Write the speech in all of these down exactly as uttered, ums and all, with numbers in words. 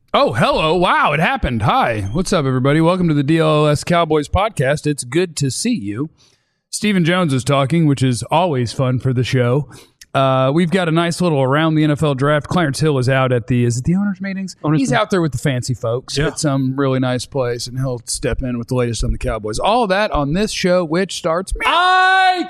Oh, hello. Wow, it happened. Hi. What's up, everybody? Welcome to the D L L S Cowboys podcast. It's good to see you. Stephen Jones is talking, which is always fun for the show. Uh, we've got a nice little around the N F L draft. Clarence Hill is out at the, is it the owners' meetings? Owners He's meeting. out there with the fancy folks yeah. at some really nice place, and he'll step in with the latest on the Cowboys. All of that on this show, which starts Mike!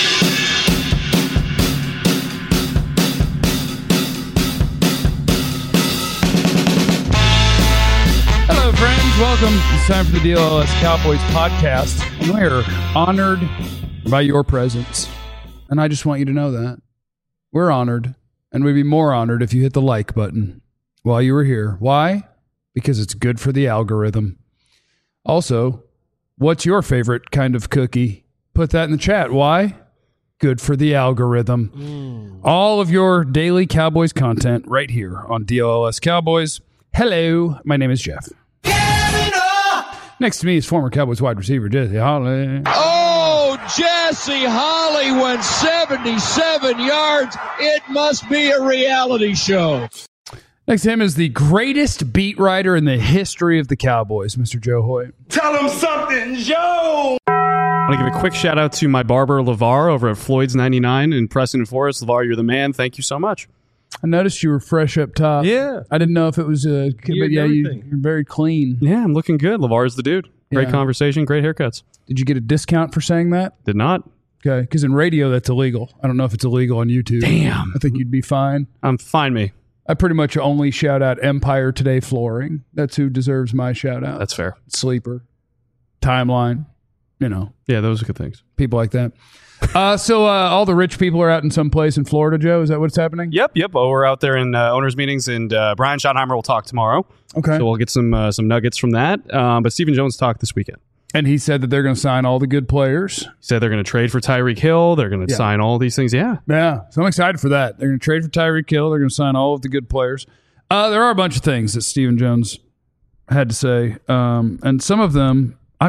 Hello, friends. Welcome. It's time for the D L L S Cowboys podcast. And we're honored by your presence. And I just want you to know that. We're honored, and we'd be more honored if you hit the like button while you were here. Why? Because it's good for the algorithm. Also, what's your favorite kind of cookie? Put that in the chat. Why? Good for the algorithm. Mm. All of your daily Cowboys content right here on D L L S Cowboys. Hello, my name is Jeff. Next to me is former Cowboys wide receiver Jesse Holley. Oh, Jesse Holley went seventy-seven yards. It must be a reality show. Next to him is the greatest beat writer in the history of the Cowboys, Mister Joe Hoyt. Tell him something, Joe! I want to give a quick shout out to my barber, LeVar, over at Floyd's ninety-nine in Preston and Forest. LeVar, you're the man. Thank you so much. I noticed you were fresh up top. Yeah. I didn't know if it was a... But yeah, you, you're very clean. Yeah, I'm looking good. LeVar's the dude. Great yeah. conversation, great haircuts. Did you get a discount for saying that? Did not. Okay, because in radio, that's illegal. I don't know if it's illegal on YouTube. Damn. I think you'd be fine. I'm fine, me. I pretty much only shout out Empire Today Flooring. That's who deserves my shout out. That's fair. Sleeper. Timeline. You know. Yeah, those are good things. People like that. Uh, so uh, all the rich people are out in some place in Florida, Joe? Is that what's happening? Yep, yep. Oh, we're out there in uh, owners' meetings, and uh, Brian Schottenheimer will talk tomorrow. Okay. So we'll get some uh, some nuggets from that. Um, but Stephen Jones talked this weekend. And he said that they're going to sign all the good players. He said they're going to trade for Tyreek Hill. They're going to yeah. sign all these things. Yeah. Yeah. So I'm excited for that. They're going to trade for Tyreek Hill. They're going to sign all of the good players. Uh, there are a bunch of things that Stephen Jones had to say. Um, and some of them, I,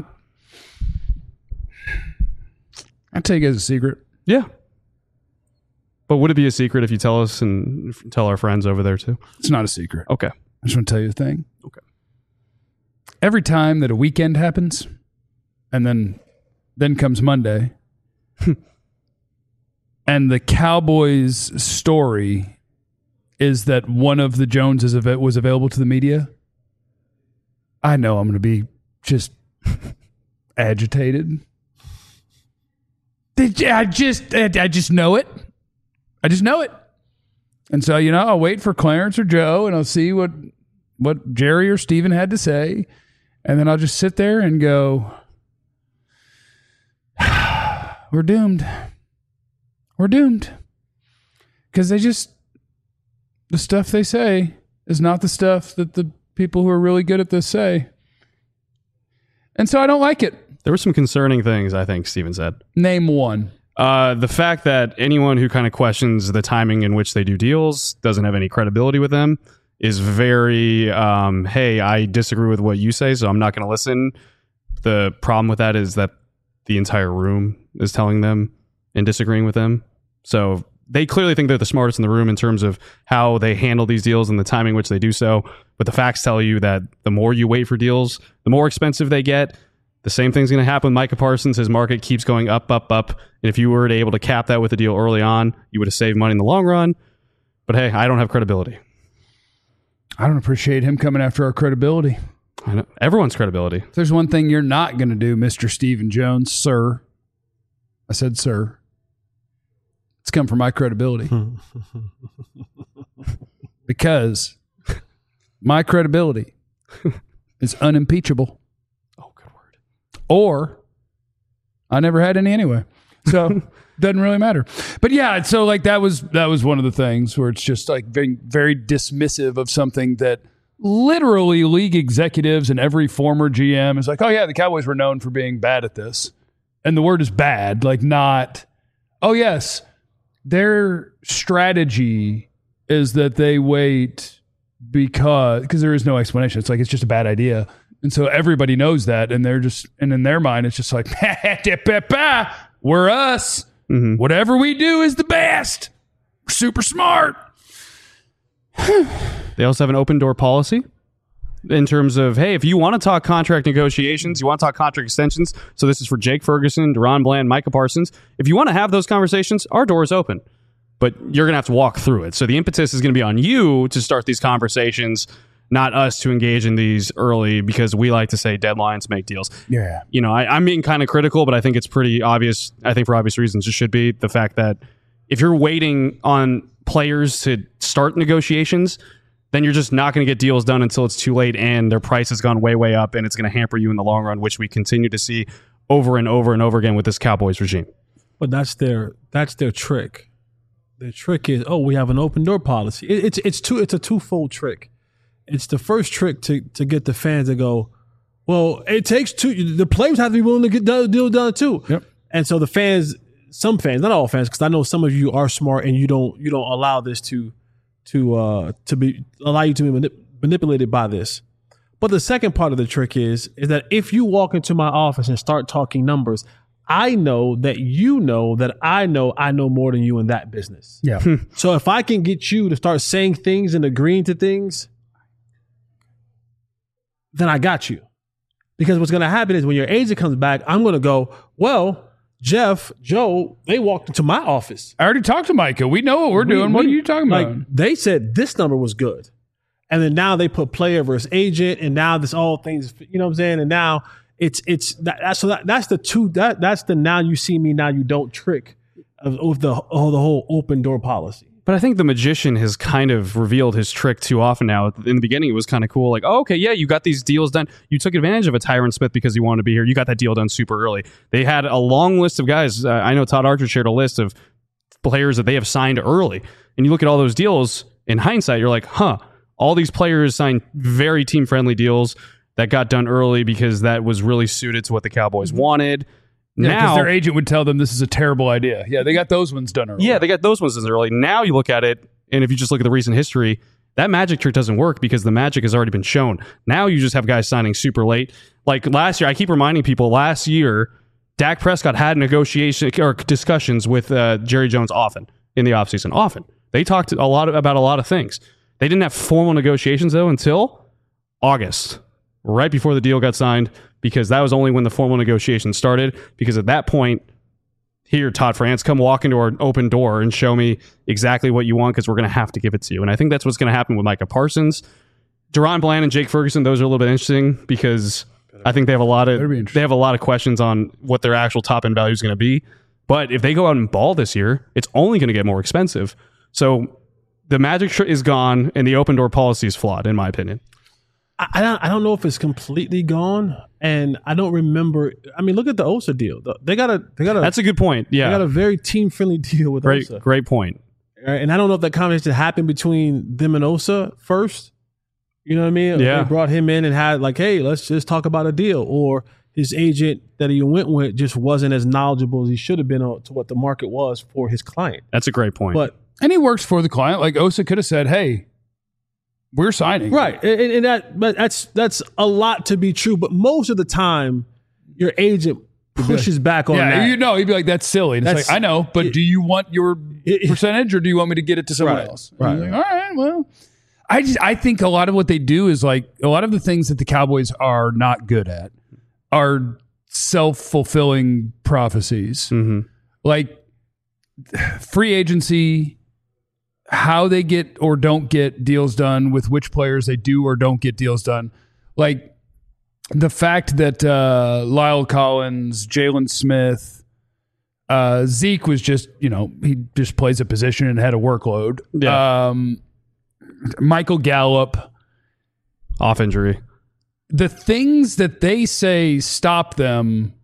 I'll tell you guys a secret. Yeah. But would it be a secret if you tell us and tell our friends over there too? It's not a secret. Okay. I just want to tell you a thing. Okay. Every time that a weekend happens, and then then comes Monday, and the Cowboys' story is that one of the Joneses of it was available to the media, I know I'm going to be just agitated. I just, I just know it. I just know it. And so, you know, I'll wait for Clarence or Joe, and I'll see what what Jerry or Steven had to say, and then I'll just sit there and go, we're doomed. We're doomed. Because they just, the stuff they say is not the stuff that the people who are really good at this say. And so I don't like it. There were some concerning things, I think, Steven said. Name one. Uh, the fact that anyone who kind of questions the timing in which they do deals doesn't have any credibility with them is very, um, hey, I disagree with what you say, so I'm not going to listen. The problem with that is that the entire room is telling them and disagreeing with them. So they clearly think they're the smartest in the room in terms of how they handle these deals and the timing in which they do so. But the facts tell you that the more you wait for deals, the more expensive they get. The same thing's going to happen with Micah Parsons. His market keeps going up, up, up. And if you were to able to cap that with a deal early on, you would have saved money in the long run. But hey, I don't have credibility. I don't appreciate him coming after our credibility. I know. Everyone's credibility. If there's one thing you're not going to do, Mister Stephen Jones, sir. I said, sir. It's come from my credibility. Because my credibility is unimpeachable. Or I never had any anyway. So doesn't really matter. But yeah, so like that was that was one of the things where it's just like very, very dismissive of something that literally league executives and every former G M is like, oh yeah, the Cowboys were known for being bad at this. And the word is bad, like not, oh yes, their strategy is that they wait because, because there is no explanation. It's like, it's just a bad idea. And so everybody knows that, and they're just, and in their mind, it's just like, we're us. Mm-hmm. Whatever we do is the best. We're super smart. They also have an open door policy. in terms of, hey, if you want to talk contract negotiations, you want to talk contract extensions, so this is for Jake Ferguson, Deron Bland, Micah Parsons. If you want to have those conversations, our door is open. But you're going to have to walk through it. So the impetus is going to be on you to start these conversations, not us to engage in these early, because we like to say deadlines make deals. Yeah. You know, I, I'm being kind of critical, but I think it's pretty obvious. I think for obvious reasons, it should be the fact that if you're waiting on players to start negotiations, then you're just not going to get deals done until it's too late and their price has gone way, way up, and it's going to hamper you in the long run, which we continue to see over and over and over again with this Cowboys regime. But that's their that's their trick. The trick is, oh, we have an open door policy. It, it's it's two it's a twofold trick. It's the first trick to to get the fans to go, well, it takes two. The players have to be willing to get the deal done too. Yep. And so the fans, some fans, not all fans, because I know some of you are smart and you don't you don't allow this to to uh, to be allow you to be manip- manipulated by this. But the second part of the trick is is that if you walk into my office and start talking numbers, I know that you know that I know I know more than you in that business. Yeah. So if I can get you to start saying things and agreeing to things, then I got you. Because what's going to happen is when your agent comes back, I'm going to go, well, Jeff, Joe, they walked into my office. I already talked to Micah. We know what we're doing. We- what we- are you talking like, about? They said this number was good. And then now they put player versus agent, and now this all things, you know what I'm saying? And now it's it's that, that's so that, that's the two that that's the now you see me, now you don't trick of, of the of the whole open door policy. But I think the magician has kind of revealed his trick too often now. In the beginning, it was kind of cool. Like, oh, okay, yeah, you got these deals done. You took advantage of a Tyron Smith because he wanted to be here. You got that deal done super early. They had a long list of guys. Uh, I know Todd Archer shared a list of players that they have signed early. And you look at all those deals, in hindsight, you're like, huh, all these players signed very team-friendly deals that got done early because that was really suited to what the Cowboys wanted. Yeah, because now their agent would tell them this is a terrible idea. Yeah, they got those ones done early. Yeah, they got those ones early. Now you look at it, and if you just look at the recent history, that magic trick doesn't work because the magic has already been shown. Now you just have guys signing super late. Like last year, I keep reminding people, last year, Dak Prescott had negotiation or discussions with uh, Jerry Jones often in the offseason. Often. They talked a lot about a lot of things. They didn't have formal negotiations, though, until August, right before the deal got signed, because that was only when the formal negotiations started. Because at that point, here, Todd France, come walk into our open door and show me exactly what you want because we're going to have to give it to you. And I think that's what's going to happen with Micah Parsons. Deron Bland and Jake Ferguson, those are a little bit interesting because I think they have a lot of they have a lot of questions on what their actual top end value is going to be. But if they go out and ball this year, it's only going to get more expensive. So the magic tr- is gone, and the open door policy is flawed, in my opinion. I, I don't I don't know if it's completely gone, and I don't remember. I mean, look at the Osa deal. They got a they got a That's a good point. Yeah, they got a very team friendly deal with great Osa. great point. Right? And I don't know if that conversation happened between them and Osa first. You know what I mean? Yeah. They brought him in and had like, hey, let's just talk about a deal. Or his agent that he went with just wasn't as knowledgeable as he should have been to what the market was for his client. That's a great point. But And he works for the client. Like Osa could have said, hey, we're signing. right, and, and that but that's that's a lot to be true. But most of the time, your agent pushes back on Yeah, that. you know, he'd be like, that's silly. And it's That's- like, I know, but it- do you want your it- percentage or do you want me to get it to someone Right, else? right. And he's like, all right, well. I just I think a lot of what they do is like a lot of the things that the Cowboys are not good at are self-fulfilling prophecies. Mm-hmm. Like free agency, how they get or don't get deals done, with which players they do or don't get deals done. Like the fact that uh, Lyle Collins, Jalen Smith, uh, Zeke was just, you know, he just plays a position and had a workload. Yeah. Um, Michael Gallup. Off injury. The things that they say stop them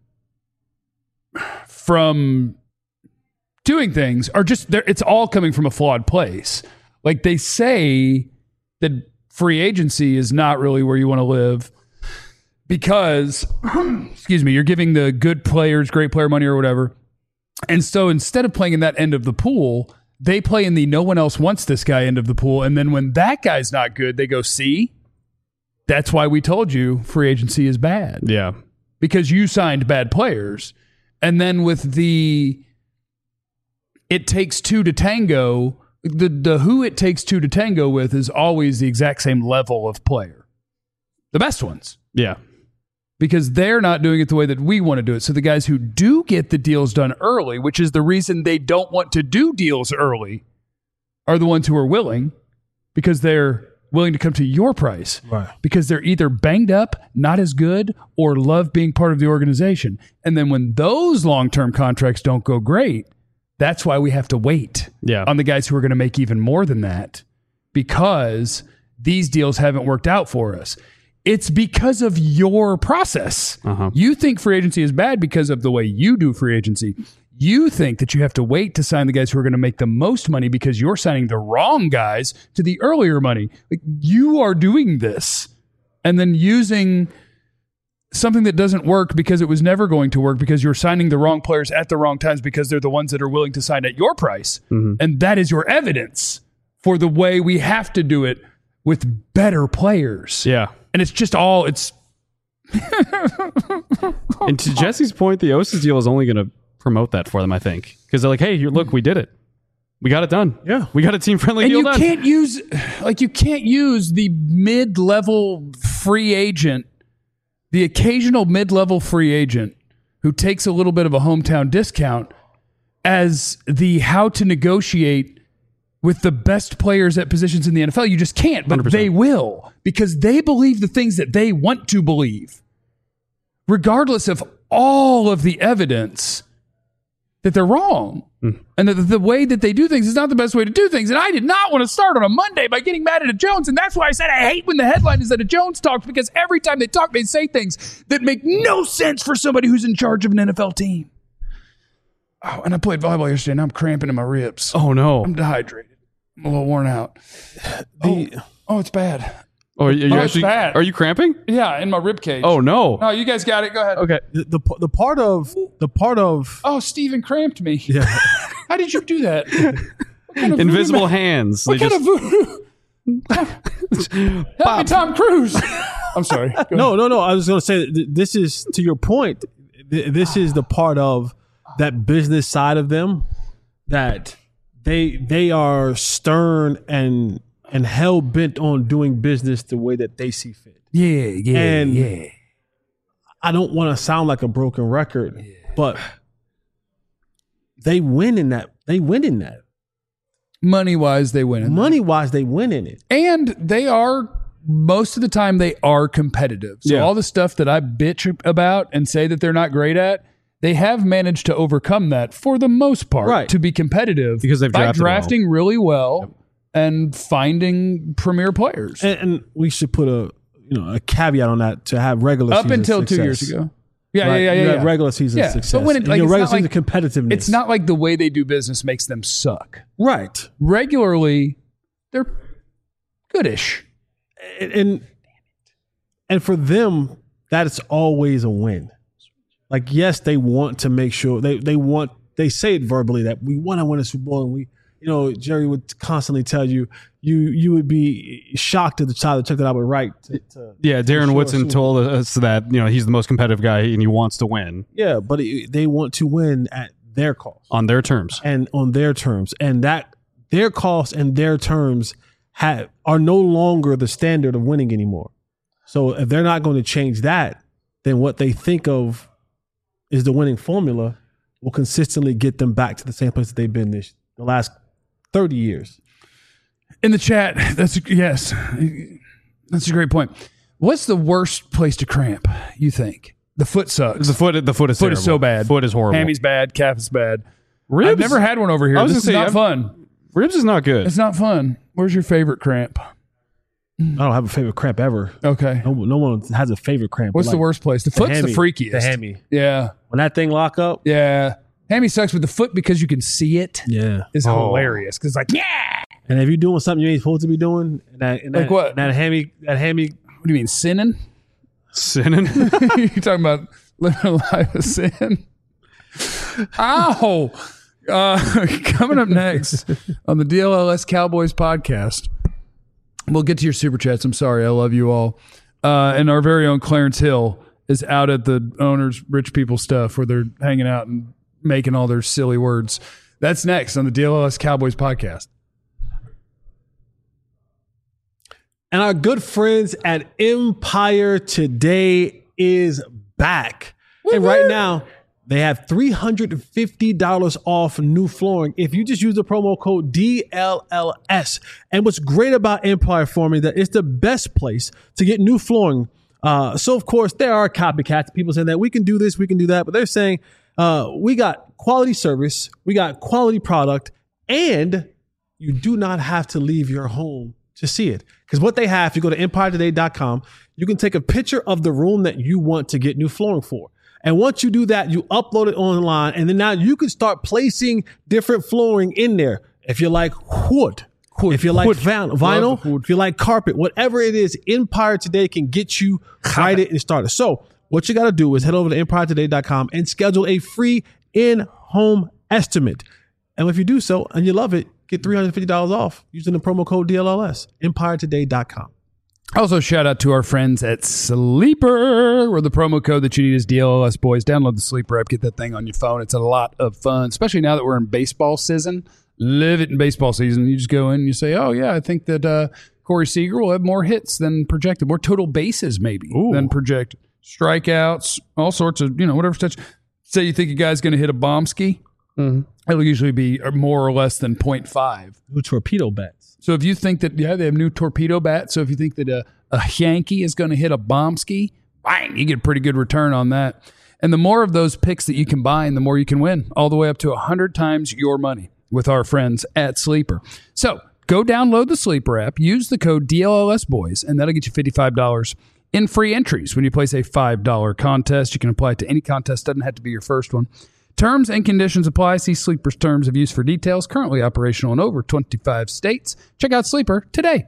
from doing things are just there. It's all coming from a flawed place. Like they say that free agency is not really where you want to live because, excuse me, you're giving the good players, great player money or whatever. And so instead of playing in that end of the pool, they play in the no one else wants this guy end of the pool. And then when that guy's not good, they go, see, that's why we told you free agency is bad. Yeah. Because you signed bad players. And then with the it takes two to tango, the, the who it takes two to tango with is always the exact same level of player. the best ones. Yeah. Because they're not doing it the way that we want to do it. So the guys who do get the deals done early, which is the reason they don't want to do deals early, are the ones who are willing, because they're willing to come to your price. Right. Because they're either banged up, not as good, or love being part of the organization. And then when those long-term contracts don't go great, that's why we have to wait Yeah. on the guys who are going to make even more than that, because these deals haven't worked out for us. It's because of your process. Uh-huh. You think free agency is bad because of the way you do free agency. You think that you have to wait to sign the guys who are going to make the most money because you're signing the wrong guys to the earlier money. Like, you are doing this and then using something that doesn't work because it was never going to work because you're signing the wrong players at the wrong times because they're the ones that are willing to sign at your price. Mm-hmm. And that is your evidence for the way we have to do it with better players. Yeah. And it's just all, it's... And to Jesse's point, the Osis deal is only going to promote that for them, I think. Because they're like, hey, here, look, we did it. We got it done. Yeah. We got a team-friendly And deal you done. can't use, like, you can't use the mid-level free agent, the occasional mid-level free agent who takes a little bit of a hometown discount as the how to negotiate with the best players at positions in the N F L. You just can't, but one hundred percent. they will, because they believe the things that they want to believe, regardless of all of the evidence that they're wrong. Mm. And that the way that they do things is not the best way to do things. And I did not want to start on a Monday by getting mad at a Jones. And that's why I said I hate when the headline is that a Jones talks, because every time they talk, they say things that make no sense for somebody who's in charge of an N F L team. Oh, and I played volleyball yesterday and I'm cramping in my ribs. Oh, no. I'm dehydrated. I'm a little worn out. The, Oh, oh it's bad. Oh, are you Oh, it's actually, bad. are you cramping? Yeah, in my rib cage. Oh, no. No, you guys got it. Go ahead. Okay. the, the the part of the part of Oh, Steven cramped me. yeah. How did you do that? What kind of Invisible voodoo ma- hands. What They kind just, of voodoo? Help me, Tom Cruise. I'm sorry. Go ahead. No, no, no. I was going to say th- this is, to your point, th- this is the part of that business side of them that they they are stern and and hell bent on doing business the way that they see fit. Yeah, yeah, And- yeah. I don't want to sound like a broken record, but they win in that. They win in that. Money wise, they win. Money wise, they win in it. And they are, most of the time, they are competitive. So Yeah. all the stuff that I bitch about and say that they're not great at, they have managed to overcome that for the most part, Right. to be competitive Because they've by drafted well. drafting really well and finding premier players. And, and we should put a you know a caveat on that to have regular Up season until two success. years ago. Yeah, Right? yeah, yeah, You yeah. have yeah. regular season Yeah, but success. when it- And like, your it's regular not season like- competitiveness. It's not like the way they do business makes them suck. right. Regularly, they're goodish. And, and and for them, that is always a win. Like, yes, they want to make sure they they want they say it verbally that we want to win a Super Bowl, and we, you know, Jerry would constantly tell you you you would be shocked at the child that took that out, but right. To, to, yeah, Darren sure, Woodson sure. told us that, you know, he's the most competitive guy and he wants to win yeah, but it, they want to win at their cost on their terms. and on their terms, and that their cost and their terms have are no longer the standard of winning anymore. So if they're not going to change that, then what they think of is the winning formula will consistently get them back to the same place that they've been this the last thirty years. In the chat, that's yes, that's a great point. What's the worst place to cramp? You think the foot sucks? The foot, the foot is foot is so terrible. bad. Foot is horrible. Hammy's bad. Calf is bad. Ribs? I've never had one over here. I was This is gonna say, not I've- fun. Ribs is not good. It's not fun. Where's your favorite cramp? I don't have a favorite cramp ever. Okay. No, no one has a favorite cramp. What's Like, the worst place? The foot's hammy. the freakiest. The hammy. Yeah. When that thing lock up, Yeah. Hammy sucks with the foot because you can see it. yeah. Is Oh. hilarious because like yeah. And if you're doing something you ain't supposed to be doing, and that, and Like that, what? That hammy, that hammy. What do you mean sinning? Sinning. You're talking about living a life of sin. Ow! Uh, coming up next on the D L L S Cowboys podcast, we'll get to your super chats. I'm sorry, I love you all. Uh, and our very own Clarence Hill is out at the owner's rich people stuff where they're hanging out and making all their silly words. That's next on the D L L S Cowboys podcast. And our good friends at Empire Today is back. Woo-hoo. And right now, they have three hundred fifty dollars off new flooring if you just use the promo code D L L S. And what's great about Empire for me, that it's the best place to get new flooring. Uh, so, of course, there are copycats. People saying that we can do this, we can do that. But they're saying uh, we got quality service, we got quality product, and you do not have to leave your home to see it. Because what they have, if you go to empire today dot com, you can take a picture of the room that you want to get new flooring for. And once you do that, you upload it online, and then now you can start placing different flooring in there. If you like wood, wood if you like vinyl, vinyl if you like carpet, whatever it is, Empire Today can get you started and started. So what you got to do is head over to empire today dot com and schedule a free in-home estimate. And if you do so and you love it, get three hundred fifty dollars off using the promo code D L L S, empire today dot com. Also, shout out to our friends at Sleeper, where the promo code that you need is D L L S Boys. Download the Sleeper app, get that thing on your phone. It's a lot of fun, especially now that we're in baseball season. Live it in baseball season. You just go in and you say, oh, yeah, I think that uh, Corey Seager will have more hits than projected, more total bases maybe Ooh. than projected. Strikeouts, all sorts of, you know, whatever such. Say you think a guy's going to hit a bomb ski. Mm-hmm. It'll usually be more or less than point five. New torpedo bats. So if you think that, yeah, they have new torpedo bats. So if you think that a, a Yankee is going to hit a bomb ski, bang, you get a pretty good return on that. And the more of those picks that you can buy, and the more you can win, all the way up to one hundred times your money with our friends at Sleeper. So go download the Sleeper app, use the code D L L S Boys, and that'll get you fifty-five dollars in free entries when you place a five dollars contest. You can apply it to any contest. Doesn't have to be your first one. Terms and conditions apply. See Sleeper's terms of use for details. Currently operational in over twenty-five states. Check out Sleeper today.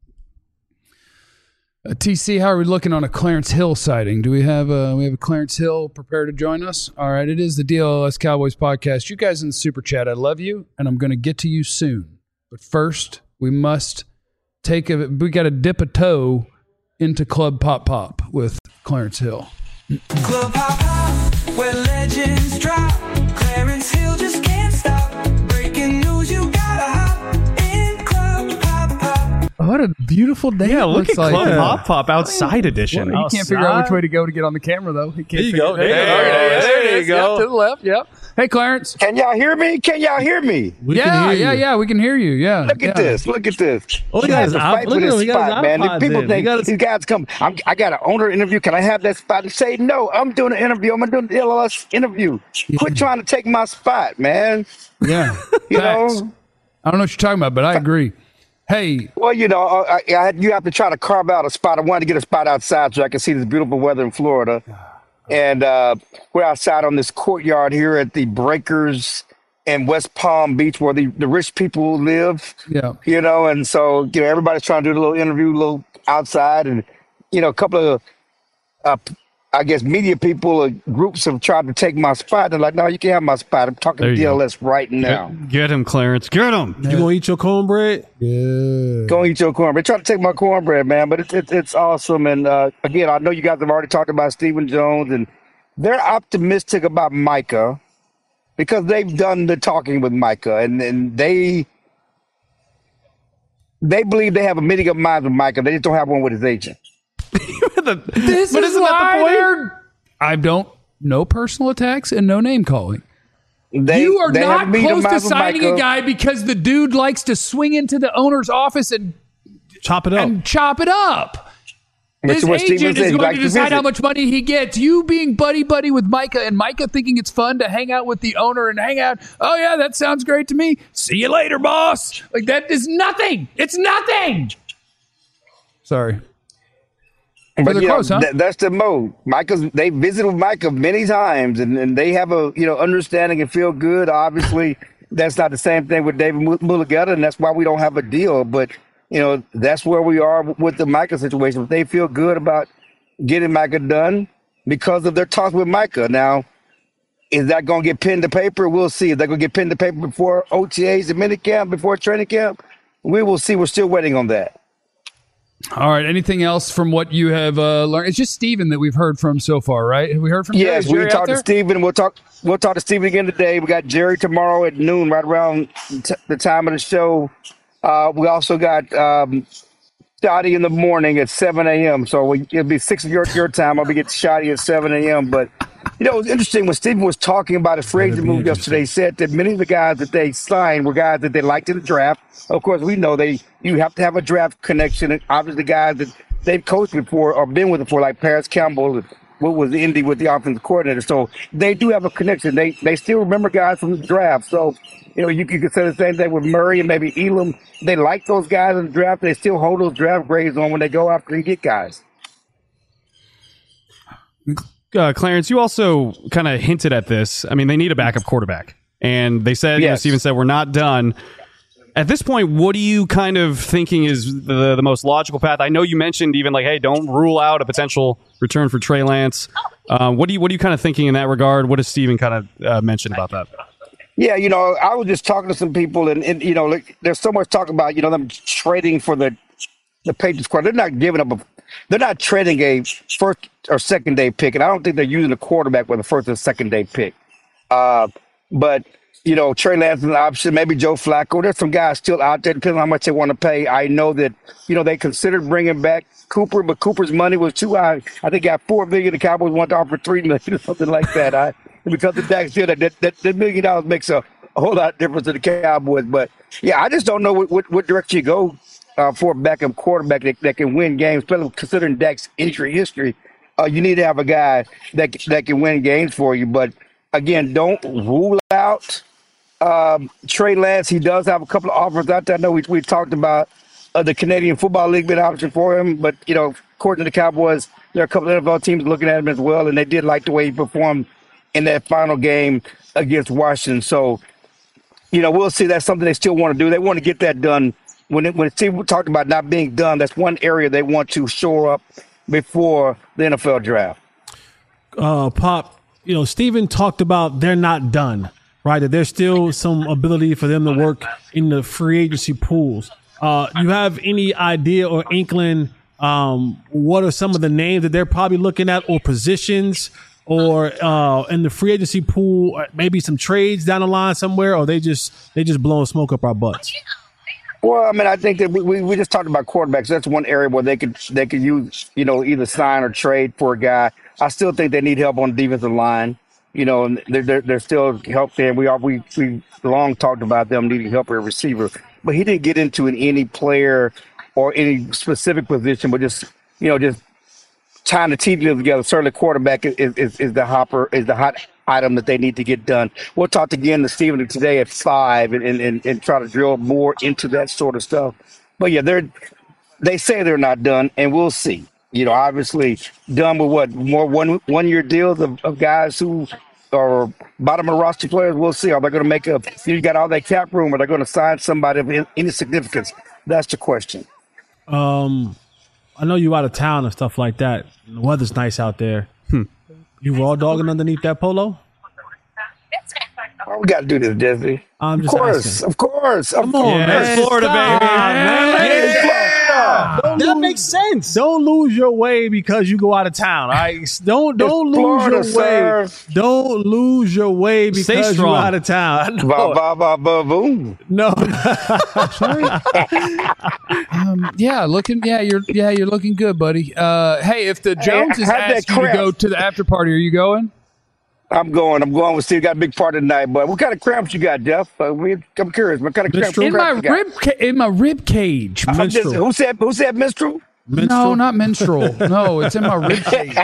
Uh, T C, how are we looking on a Clarence Hill sighting? Do we have a, we have a Clarence Hill prepared to join us? All right, it is the D L L S Cowboys podcast. You guys in the super chat, I love you, and I'm going to get to you soon. But first, we must take a, we got to dip a toe into Club Pop Pop with Clarence Hill. Club Pop Pop, where legends drop. Clarence Hill just can't stop. Breaking news, you gotta hop in Club Pop Pop. What a beautiful day. Yeah, it look at like. Club Yeah. Pop Pop outside edition. Well, he can't figure out which way to go to get on the camera, though. He can't There you figure go. it- There you There, go. there, There there you it is. go. Yep, to the left. Yep. Hey, Clarence. Can y'all hear me? Can y'all hear me? We yeah, can hear yeah, you. yeah. We can hear you. Yeah. Look at yeah. this. Look at this. Oh, he You got have his to iP- fight look for at this him. He got his spot, man. iPods People in. He think got his- these guys come. I'm, I got an owner interview. Can I have that spot? And say no. I'm doing an interview. I'm doing the L L S interview. Quit trying to take my spot, man. Yeah. You Facts. know. I don't know what you're talking about, but I agree. Hey, Well, you know, I, I, you have to try to carve out a spot. I wanted to get a spot outside so I can see this beautiful weather in Florida. And uh, we're outside on this courtyard here at the Breakers in West Palm Beach, where the, the rich people live. yeah. You know, and so you know everybody's trying to do a little interview, a little outside, and you know, a couple of, uh, I guess, media people, uh, groups have tried to take my spot. They're like, no, you can't have my spot. I'm talking There to you go. D L S right now. Get, get him, Clarence. Get him. You gonna eat your cornbread? Yeah. Go eat your cornbread. Try to take my cornbread, man. But it's it's, it's awesome. And uh, again, I know you guys have already talked about Stephen Jones, and they're optimistic about Micah because they've done the talking with Micah, and, and they they believe they have a meeting of minds with Micah. They just don't have one with his agent. This But is isn't that why the point? they're- I don't, no personal attacks and no name calling. They, you are they have not a meeting of close to minds with signing Micah. a guy because the dude likes to swing into the owner's office and, Chop it up. and chop it up. Which His is what Stephen agent said. is He going likes to to decide visit. how much money he gets. You being buddy-buddy with Micah and Micah thinking it's fun to hang out with the owner and hang out. Oh, yeah, that sounds great to me. See you later, boss. Like, that is nothing. It's nothing. Sorry. But they're you know, close, huh? th- that's the mode. Micah's they visited with Micah many times, and, and they have a you know understanding and feel good. Obviously, that's not the same thing with David Mul- Mulligata, and that's why we don't have a deal. But you know that's where we are with the Micah situation. They feel good about getting Micah done because of their talks with Micah. Now, is that going to get pinned to paper? We'll see. Is that going to get pinned to paper before O T As and minicamp, before training camp? We will see. We're still waiting on that. All right. Anything else from what you have uh, learned? It's just Steven that we've heard from so far, right? Have we heard from Jerry? Yes, Is we Jerry out talked to there? Steven. We'll talk. We'll talk to Steven again today. We got Jerry tomorrow at noon, right around t- the time of the show. Uh, we also got um, shoddy in the morning at seven a.m. So we, it'll be six of your, your time. I'll be getting shoddy at seven a.m. But, you know, it was interesting when Stephen was talking about his free agent move yesterday. He said that many of the guys that they signed were guys that they liked in the draft. Of course, we know they you have to have a draft connection. And obviously, guys that they've coached before or been with before, like Paris Campbell, what was Indy with the offensive coordinator. So they do have a connection. They they still remember guys from the draft. So, you know, you can say the same thing with Murray and maybe Elam. They like those guys in the draft. They still hold those draft grades on when they go after and get guys. Uh, Clarence, you also kind of hinted at this. I mean, they need a backup quarterback. And they said, yes. you know, Steven said, we're not done. At this point, what are you kind of thinking is the, the most logical path? I know you mentioned even like, hey, don't rule out a potential return for Trey Lance. Uh, what, do you, what are you kind of thinking in that regard? What does Steven kind of uh, mention about that? Yeah, you know, I was just talking to some people, and, and you know, like, there's so much talk about, you know, them trading for the the Patriots squad. They're not giving up a, they're not trading a first or second day pick, and I don't think they're using a quarterback with a first or second day pick. Uh, but you know, Trey Lance is an option, maybe Joe Flacco. There's some guys still out there, depending on how much they want to pay. I know that, you know, they considered bringing back Cooper, but Cooper's money was too high. I think he got four million. The Cowboys want to offer three million or something like that. I, because the Dax deal, that, that, that, that million dollars makes a, a whole lot of difference to the Cowboys. But yeah, I just don't know what, what, what direction you go uh, for a backup quarterback that, that can win games, especially considering Dak's injury history. Uh, you need to have a guy that that can win games for you. But again, don't rule out um, Trey Lance. He does have a couple of offers out there. I know we we talked about uh, the Canadian Football League being an option for him, but you know, according to the Cowboys, there are a couple of N F L teams looking at him as well, and they did like the way he performed in that final game against Washington. So, you know, we'll see. That's something they still want to do. They want to get that done. When it, when Steve talked about not being done, that's one area they want to shore up before the N F L draft. Uh, Pop, you know, Steven talked about they're not done, right? That there's still some ability for them to work in the free agency pools. Uh, you have any idea or inkling um, what are some of the names that they're probably looking at, or positions, or uh, in the free agency pool, maybe some trades down the line somewhere, or they just they just blowing smoke up our butts? Well, I mean, I think that we, we, we just talked about quarterbacks. That's one area where they could they could use, you know, either sign or trade for a guy. I still think they need help on the defensive line. You know, and they're, they're, they're still help there. We all we we long talked about them needing help at receiver, but he didn't get into an, any player or any specific position, but just you know just tying the team together. Certainly, quarterback is, is is the hopper is the hot item that they need to get done. We'll talk again to Steven today at five and, and, and try to drill more into that sort of stuff. But yeah, they're they say they're not done, and we'll see. You know, obviously done with what more one one year deals of, of guys who are bottom of the roster players. We'll see. Are they going to make a? You got all that cap room? Are they going to sign somebody of any significance? That's the question. Um, I know you out of town and stuff like that. The weather's nice out there. Hmm. You raw dogging underneath that polo? Why we got to do this, Disney? I'm Of just course, asking. of course, of Come on, course. man. Florida, Stop, baby. man. Yeah. Don't That lose- makes sense. Don't lose your way because you go out of town. All right? Don't don't It's lose Florida, your way. sir. Don't lose your way Stay because you're strong. out of town. Ba No, ba ba ba boom. no. Um, yeah, looking. Yeah, you're. Yeah, you're looking good, buddy. Uh, hey, if the Joneses how'd that ask you to cramp? go to the after party, are you going? I'm going. I'm going with Steve. Got a big part tonight, but what kind of cramps you got, Jeff? Uh, we, I'm curious. What kind of cramps, Minstrel? In my cramps you got? rib. Ca- in my rib cage. I'm just- Minstrel. who said? Who said minstrel? No, not menstrual. No, it's in my rib cage.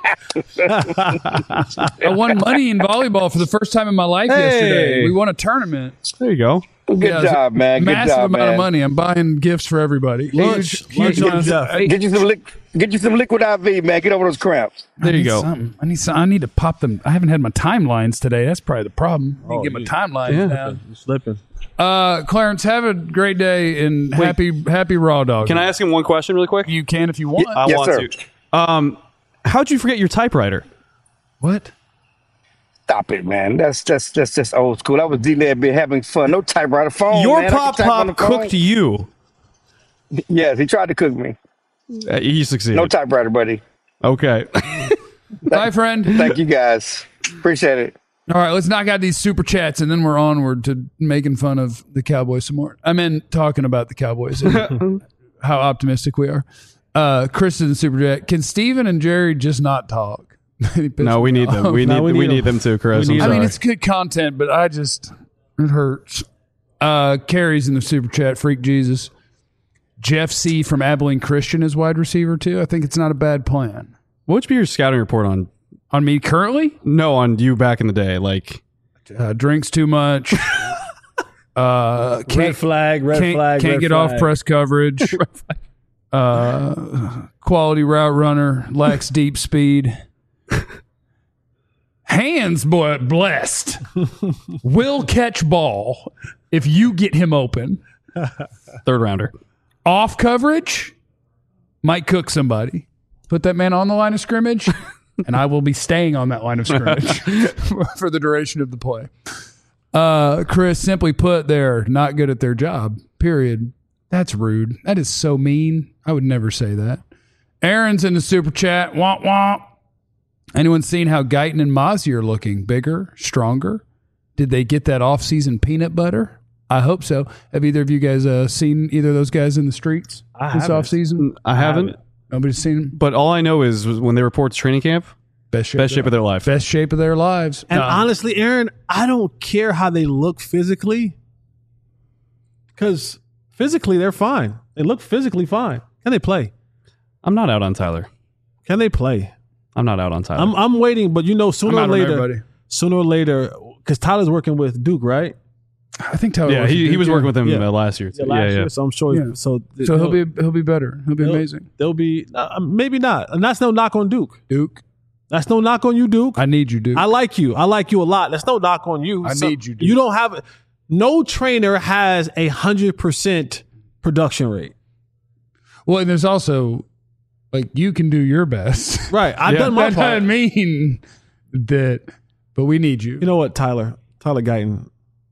I won money in volleyball for the first time in my life Hey. yesterday. We won a tournament. There you go. Good Yeah, it was job, a man. Good Massive job, amount man. of money. I'm buying gifts for everybody. Lunch, Huge- lunch huge on amount of- Jeff. Hey, Get you some liquid. Get you some liquid I V, man. Get over those cramps. I There you need go. something. I need some, I need to pop them. I haven't had my timelines today. That's probably the problem. I need to get my you- timelines yeah. down. You're slipping. Uh, Clarence, have a great day and happy happy raw dog. Can I ask him one question really quick? You can if you want. I Yes, want sir. to. Um, how'd you forget your typewriter? What? Stop it, man. That's that's that's just old school. I was D-Led been having fun. No typewriter phone. Your man. I pop can type on the pop phone. cooked you. Yes, he tried to cook me. Uh, he succeeded. No typewriter, buddy. Okay. Bye, friend. Thank you guys. Appreciate it. All right, let's knock out these super chats and then we're onward to making fun of the Cowboys some more. I mean, talking about the Cowboys. And how optimistic we are. Uh, Chris in the super chat. Can Steven and Jerry just not talk? No, we need them. We No, need we we need need, them. them too, Chris. We I'm need I sorry. mean, it's good content, but I just it hurts. Uh, Carrie's in the super chat. Freak Jesus. Jeff C from Abilene Christian is wide receiver too. I think it's not a bad plan. What would be your scouting report on? On me currently, No, on you back in the day. Like, uh, drinks too much. uh, Red can't flag, red can't, flag. can't red get flag. off press coverage. uh, quality route runner, lacks deep speed. Hands, boy, blessed. Will catch ball if you get him open. third rounder. Off coverage, might cook somebody. Put that man on the line of scrimmage, and I will be staying on that line of scrimmage for the duration of the play. Uh, Chris, simply put, they're not good at their job, period. That's rude. That is so mean. I would never say that. Aaron's in the super chat. Womp womp. Anyone seen how Guyton and Mozzie are looking? Bigger, stronger? Did they get that off-season peanut butter? I hope so. Have either of you guys uh, seen either of those guys in the streets I this haven't. off-season? I haven't, Nobody's seen them? but all I know is when they report to training camp, Best shape, best shape of their life. best shape of their lives. And Uh, honestly, Aaron, I don't care how they look physically, because physically they're fine. They look physically fine. Can they play? I'm not out on Tyler. Can they play? I'm not out on Tyler. I'm I'm waiting, but you know, sooner I'm or out on later, everybody. sooner or later, because Tyler's working with Duke, right? I think Tyler. yeah, was he, a he was good working guy. with him Yeah. uh, last year. Too. Yeah, last yeah, yeah. year, so I'm sure. Yeah. So, th- So he'll they'll- be he'll be better. He'll be they'll- amazing. They'll be uh, maybe not, and that's no knock on Duke. Duke, That's no knock on you, Duke. I need you, Duke. I like you. I like you a lot. That's no knock on you. I need you, Duke. You don't have no trainer has a hundred percent production rate. well, and there's also like you can do your best. Right. I've Yeah. done my That part. doesn't mean that, but we need you. You know what, Tyler? Tyler Guyton,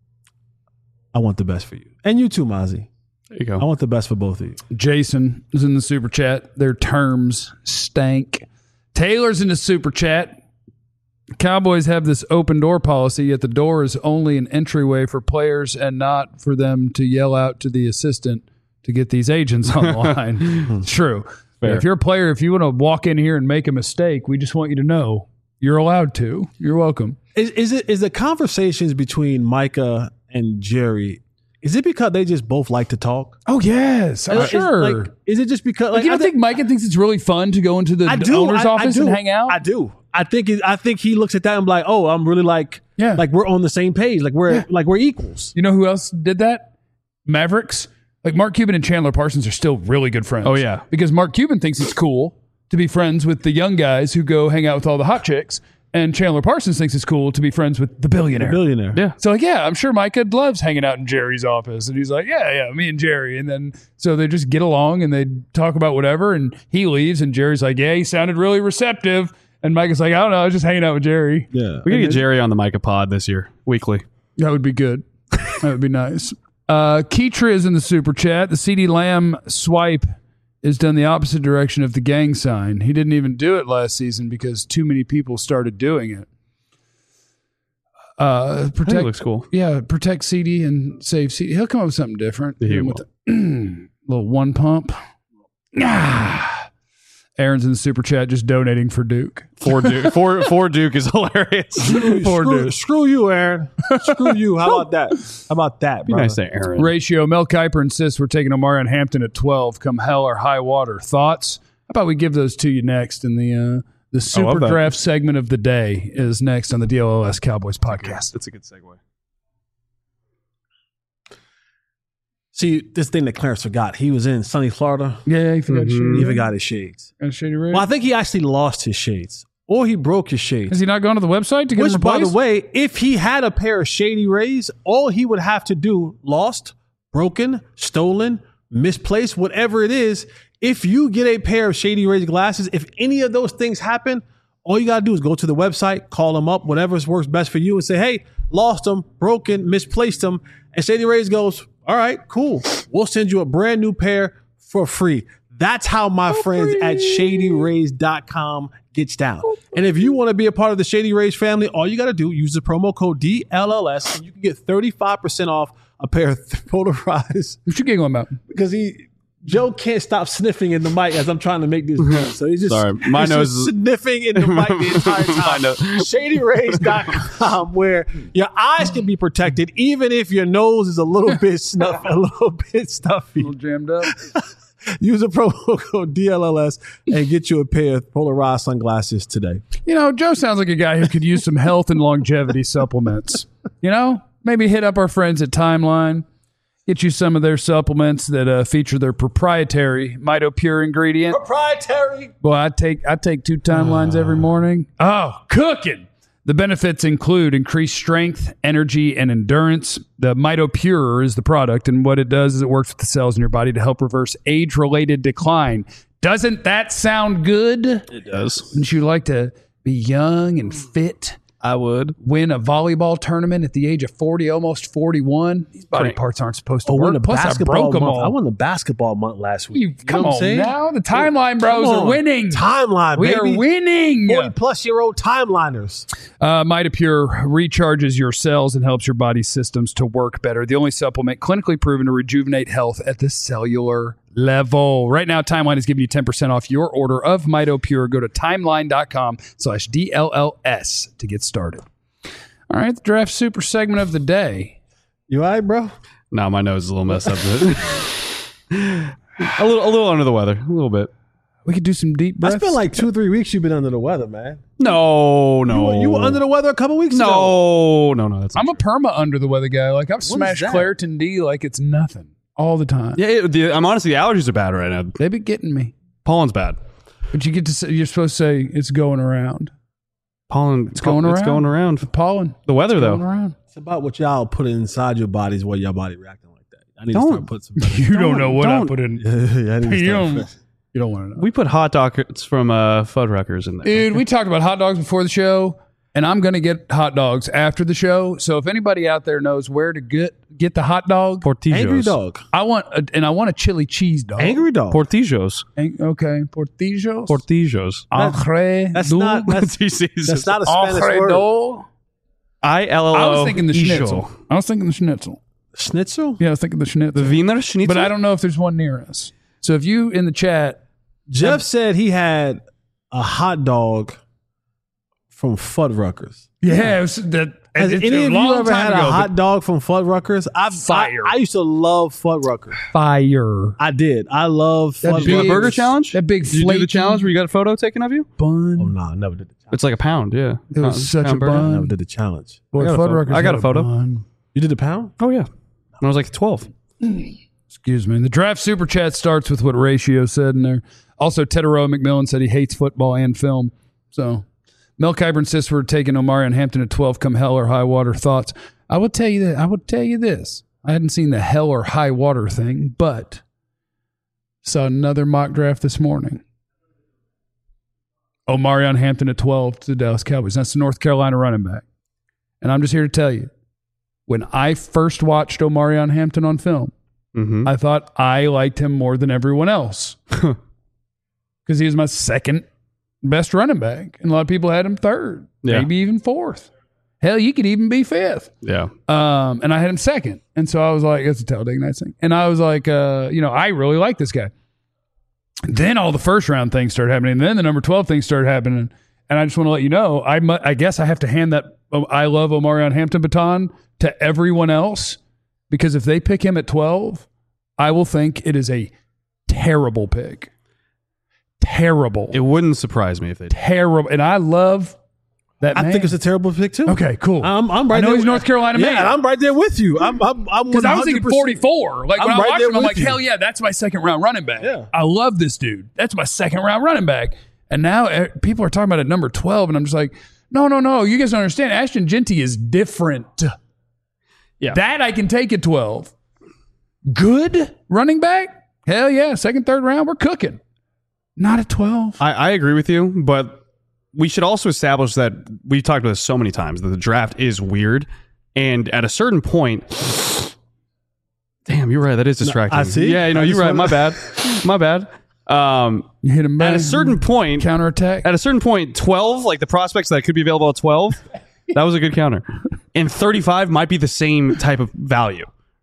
I want the best for you. And you too, Mozzie. There you I go. want the best for both of you. Jason is in the super chat. Their terms stank. Taylor's in the super chat. Cowboys have this open door policy, yet the door is only an entryway for players and not for them to yell out to the assistant to get these agents on the line. It's true. Fair. If you're a player, if you want to walk in here and make a mistake, we just want you to know you're allowed to. You're welcome. Is, is it is the conversations between Micah and Jerry? Is it because they just both like to talk? Oh, yes. I'm Is- sure. Like, is it just because? Like, Like, you I don't think Micah thinks it's really fun to go into the I do. owner's I, I office do. and hang out? I do. I think. It, I think he looks at that and be like, "Oh, I'm really like, Yeah. like we're on the same page. Like we're Yeah. like we're equals." You know who else did that? Mavericks. Like Mark Cuban and Chandler Parsons are still really good friends. Oh, yeah. Because Mark Cuban thinks it's cool to be friends with the young guys who go hang out with all the hot chicks. And Chandler Parsons thinks it's cool to be friends with the billionaire. Billionaire. Yeah. So like, yeah, I'm sure Micah loves hanging out in Jerry's office. And he's like, yeah, yeah, me and Jerry. And then so they just get along and they talk about whatever. And he leaves and Jerry's like, yeah, he sounded really receptive. And Micah's like, I don't know, I was just hanging out with Jerry. Yeah. We gotta get Jerry on the Micah pod this year, weekly. That would be good. That would be nice. Uh, Keitra is in the super chat. The CeeDee Lamb swipe is done the opposite direction of the gang sign. He didn't even do it last season because too many people started doing it. Uh, I think protect it looks cool. Yeah, protect C D and save C D. He'll come up with something different. He With the- little one pump. Ah. Aaron's in the super chat just donating for Duke. For Duke, for, for Duke is hilarious. For screw, Duke. screw you, Aaron. Screw you. How about that? How about that, Be brother? nice to Aaron. Ratio. Mel Kiper insists we're taking Omarion Hampton at twelve. Come hell or high water. Thoughts? How about we give those to you next in the uh, the super that. draft segment of the day is next on the D L O S Cowboys podcast. That's a good segue. See, this thing that Clarence forgot. He was in sunny Florida. Yeah, he forgot Mhm. shady. He forgot his shades. Got shady red. Well, I think he actually lost his shades. Or he broke his shades. Has he not gone to the website to get Which, them by replaced? the way, if he had a pair of Shady Rays, all he would have to do, lost, broken, stolen, misplaced, whatever it is, if you get a pair of Shady Rays glasses, if any of those things happen, all you got to do is go to the website, call them up, whatever works best for you, and say, hey, lost them, broken, misplaced them. And Shady Rays goes, all right, cool. We'll send you a brand new pair for free. That's how my friends at shady rays dot com gets down. And if you want to be a part of the Shady Rays family, all you got to do, use the promo code D L L S, and you can get thirty-five percent off a pair of polarized. What you giggling about? Because he, Joe can't stop sniffing in the mic as I'm trying to make this point. So he's just, Sorry, my he's nose just is- sniffing in the mic the entire time. Shady Rays dot com, where your eyes can be protected even if your nose is a little bit snuff, a little bit stuffy. Jammed up. Use a promo code D L L S and get you a pair of Polarized sunglasses today. You know, Joe sounds like a guy who could use some health and longevity supplements. You know, maybe hit up our friends at Timeline. Get you some of their supplements that uh, feature their proprietary MitoPure ingredient. Proprietary. Boy, I take I take two Timelines every morning. Oh, cooking! The benefits include increased strength, energy, and endurance. The MitoPure is the product, and what it does is it works with the cells in your body to help reverse age-related decline. Doesn't that sound good? It does. Wouldn't you like to be young and fit? I would. Win a volleyball tournament at the age of forty, almost forty-one. These body Great. parts aren't supposed to Oh, work. won the Plus, I basketball broke them month. all. I won the basketball month last week. You, You come know what I'm on saying? now. The Timeline Bros Come are on. winning. Timeline, We baby. are winning. forty plus year old timeliners. Uh, MitoPure recharges your cells and helps your body's systems to work better. The only supplement clinically proven to rejuvenate health at the cellular level. Right now, Timeline is giving you ten percent off your order of MitoPure. Go to timeline.com slash DLLS to get started. All right, the draft super segment of the day. You all right, bro? No, my nose is a little messed up. a little, a little under the weather, a little bit. We could do some deep breaths. It's been like two, three weeks you've been under the weather, man. No, no. You, you were under the weather a couple weeks ago. No, no, no. That's I'm a perma under the weather guy. Like I've smashed that? Claritin D like it's nothing all the time. yeah. It, the, I'm honestly, the allergies are bad right now. They be getting me. Pollen's bad. But you get to say, you're supposed to say it's going around. Pollen, it's going It's around. going around. Pollen. The weather, Going though. around. It's about what y'all put inside your bodies, why your body reacting like that. I need Don't. to start putting some better. You don't know what I don't. put in. yeah, I need to You start don't, you don't want to know. We put hot dogs from uh, Fuddruckers in there. Dude, we talked about hot dogs before the show, and I'm going to get hot dogs after the show. So if anybody out there knows where to get get the hot dog, Portillos. Angry dog. I want a, and I want a chili cheese dog. Angry dog. Portillos. Ang- okay, portillos. Portillos. Ancre That's do- not that's, that's not a Spanish Ancre word. do. I L L O. I was thinking the Isho. schnitzel. I was thinking the schnitzel. Schnitzel? Yeah, I was thinking the schnitzel. The Wiener Schnitzel. But I don't know if there's one near us. So if you in the chat, Jeff said he had a hot dog from Fuddruckers. yeah, it was that. Has it's any a of you long ever time had ago, a hot dog from Fuddruckers? I've, Fire. I, I used to love Fuddruckers. but fire. I did. I love That Fuddruckers. Do a big- burger challenge? That big Did you do the flaky challenge where you got a photo taken of you? bun. Oh, no, I never did the challenge. It's like a pound, yeah. It was Pound- such a pound burger. I bun. never did the challenge. Boy, I got a photo. Fuddruckers I got had a photo. bun. You did the pound? Oh, yeah. When I was like twelve. Excuse me. The draft super chat starts with what Ratio said in there. Also, Tedero McMillan said he hates football and film. So, Mel Kiber insists we're taking Omarion Hampton at twelve come hell or high water. Thoughts? I would tell you that. I would tell you this. I hadn't seen the hell or high water thing, but saw another mock draft this morning. Omarion Hampton at twelve to the Dallas Cowboys. That's the North Carolina running back. And I'm just here to tell you, when I first watched Omarion Hampton on film, Mm-hmm. I thought I liked him more than everyone else because he was my second best running back. And a lot of people had him third, Yeah. maybe even fourth. Hell, you could even be fifth. Yeah. Um, and I had him second. And so I was like, it's a Talladega Nights thing. And I was like, uh, you know, I really like this guy. Then all the first round things started happening. And then the number twelve things started happening. And I just want to let you know, I, mu- I guess I have to hand that oh, I love Omarion Hampton baton to everyone else, because if they pick him at twelve, I will think it is a terrible pick. Terrible. It wouldn't surprise me if they did. terrible. And I love that I man. think it's a terrible pick, too. Okay, cool. I'm, I'm right I know there. he's North Carolina yeah, man. and I'm right there with you. I'm, I'm, I'm Because I was thinking one hundred percent forty-four. Like when I'm I right watched there him, I'm with like, you. hell yeah, that's my second round running back. Yeah. I love this dude. That's my second round running back. And now uh, people are talking about at number twelve, and I'm just like, no, no, no. You guys don't understand. Ashton Genty is different. Yeah. That I can take at twelve. Good running back? Hell yeah. Second, third round, we're cooking. Not at twelve. I, I agree with you, but we should also establish that we've talked about this so many times that the draft is weird. And at a certain point, damn, you're right. That is distracting. I see. Yeah, you know, I you're just right. wanna- My bad. My bad. Um, You hit him back. at a certain point, counterattack. at a certain point, twelve, like the prospects that could be available at twelve, that was a good counter. And thirty-five might be the same type of value,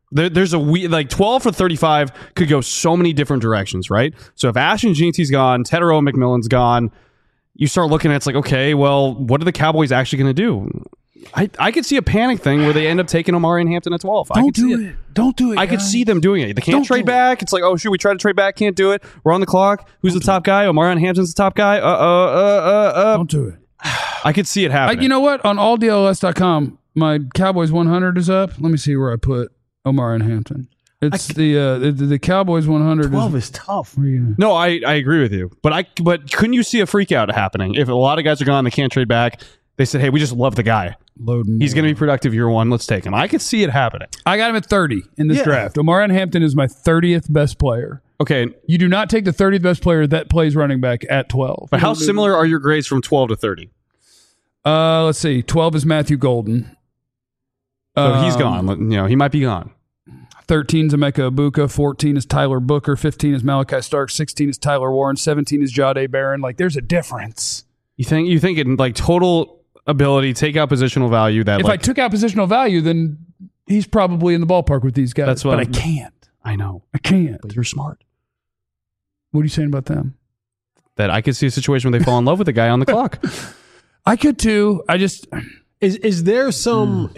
There, there's a we like twelve for thirty-five could go so many different directions, right? So if Ashton Jeanty's gone, Tetero McMillan's gone, you start looking at it's like, okay, well, what are the Cowboys actually going to do? I, I could see a panic thing where they end up taking Omarion Hampton at twelve. I Don't could see do it. Don't do it. I could guys. see them doing it. They can't Don't trade do it. back. It's like, oh, shoot, we try to trade back, can't do it. We're on the clock. Who's the top guy? Omarion Hampton's the top guy. Uh, uh, uh, uh, uh. Don't do it. I could see it I, happening. you know what? On all D L S dot com, my Cowboys one hundred is up. Let me see where I put Omarion Hampton. It's the, uh, the the Cowboys one hundred. twelve is, is tough. yeah. No, I, I agree with you. But I but couldn't you see a freak out happening? If a lot of guys are gone, they can't trade back. They said, hey, we just love the guy. Load more. He's going to be productive year one. Let's take him. I could see it happening. I got him at thirty in this Yeah. draft. Omarion Hampton is my thirtieth best player. Okay, You do not take the thirtieth best player that plays running back at twelve. but how similar are your grades from twelve to thirty? Uh, let's see. twelve is Matthew Golden. So he's Um, gone. You know, he might be gone. thirteen is Emeka Ibuka. fourteen is Tyler Booker. fifteen is Malachi Stark. sixteen is Tyler Warren. seventeen is Jahdae Barron. Like, there's a difference. You think you think in like total ability, take out positional value that If like I took out positional value, then he's probably in the ballpark with these guys. That's what but I I'm- can't. I know, I can't. but you're smart. What are you saying about them? That I could see a situation where they fall in love with the guy on the clock. I could too. I just Is is there some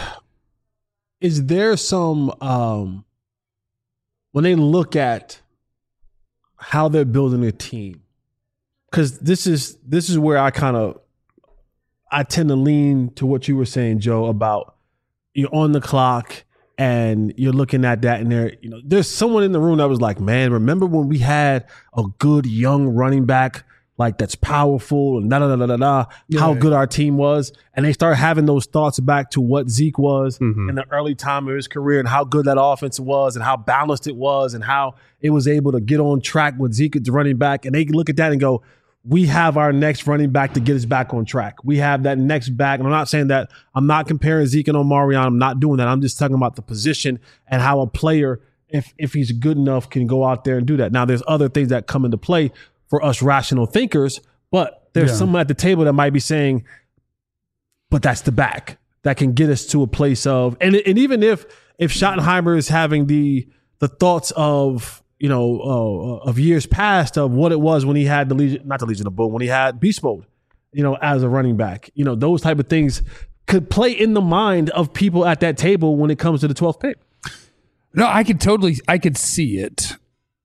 is there some um when they look at how they're building a team? Because this is this is where I kind of I tend to lean to what you were saying, Joe, about you're on the clock and you're looking at that and there, you know, there's someone in the room that was like, man, remember when we had a good young running back like that's powerful and da da da da da, how good our team was, and they start having those thoughts back to what Zeke was Mhm. in the early time of his career and how good that offense was and how balanced it was and how it was able to get on track with Zeke as the running back, and they look at that and go, we have our next running back to get us back on track. We have that next back. And I'm not saying that I'm not comparing Zeke and Omarion. I'm not doing that. I'm just talking about the position and how a player, if if he's good enough, can go out there and do that. Now, there's other things that come into play for us rational thinkers, but there's Yeah. someone at the table that might be saying, but that's the back that can get us to a place of, and and even if if Schottenheimer is having the the thoughts of, you know, uh, of years past of what it was when he had the Legion, not the Legion of Boom, when he had Beast Mode, you know, as a running back, you know, those type of things could play in the mind of people at that table when it comes to the twelfth pick. no, I could totally, I could see it.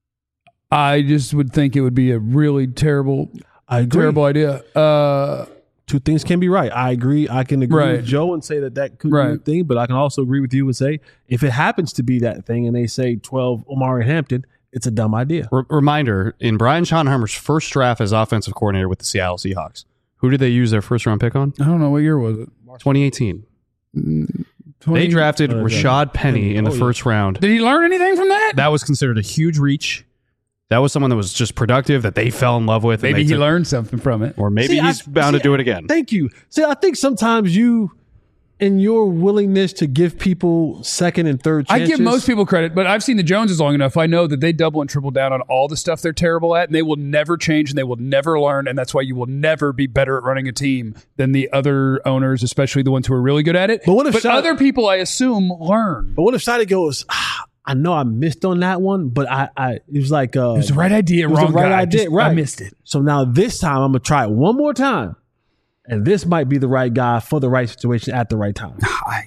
I just would think it would be a really terrible, I agree. terrible idea. Uh, Two things can be right. I agree. I can agree Right. with Joe and say that that could be Right. a thing, but I can also agree with you and say if it happens to be that thing and they say twelve Omarion Hampton, it's a dumb idea. R- reminder, in Brian Schottenheimer's first draft as offensive coordinator with the Seattle Seahawks, who did they use their first round pick on? I don't know, what year was it? twenty eighteen. twenty They drafted Uh, Rashad Penny in the Oh, yeah. first round. Did he learn anything from that? That was considered a huge reach. That was someone that was just productive that they fell in love with. and Maybe they he took- learned something from it. Or maybe See, I- he's bound see, to do it again. Thank you. See, I think sometimes you, in your willingness to give people second and third I chances, give most people credit, but I've seen the Joneses long enough. I know that they double and triple down on all the stuff they're terrible at, and they will never change and they will never learn. And that's why you will never be better at running a team than the other owners, especially the ones who are really good at it. But what if Shad- other people, I assume, learn? But what if Shadi goes, ah, I know I missed on that one, but I, I it was like uh, It was the right idea, it was wrong the right guy. idea, Just- right? I missed it. So now this time I'm gonna try it one more time, and this might be the right guy for the right situation at the right time. I,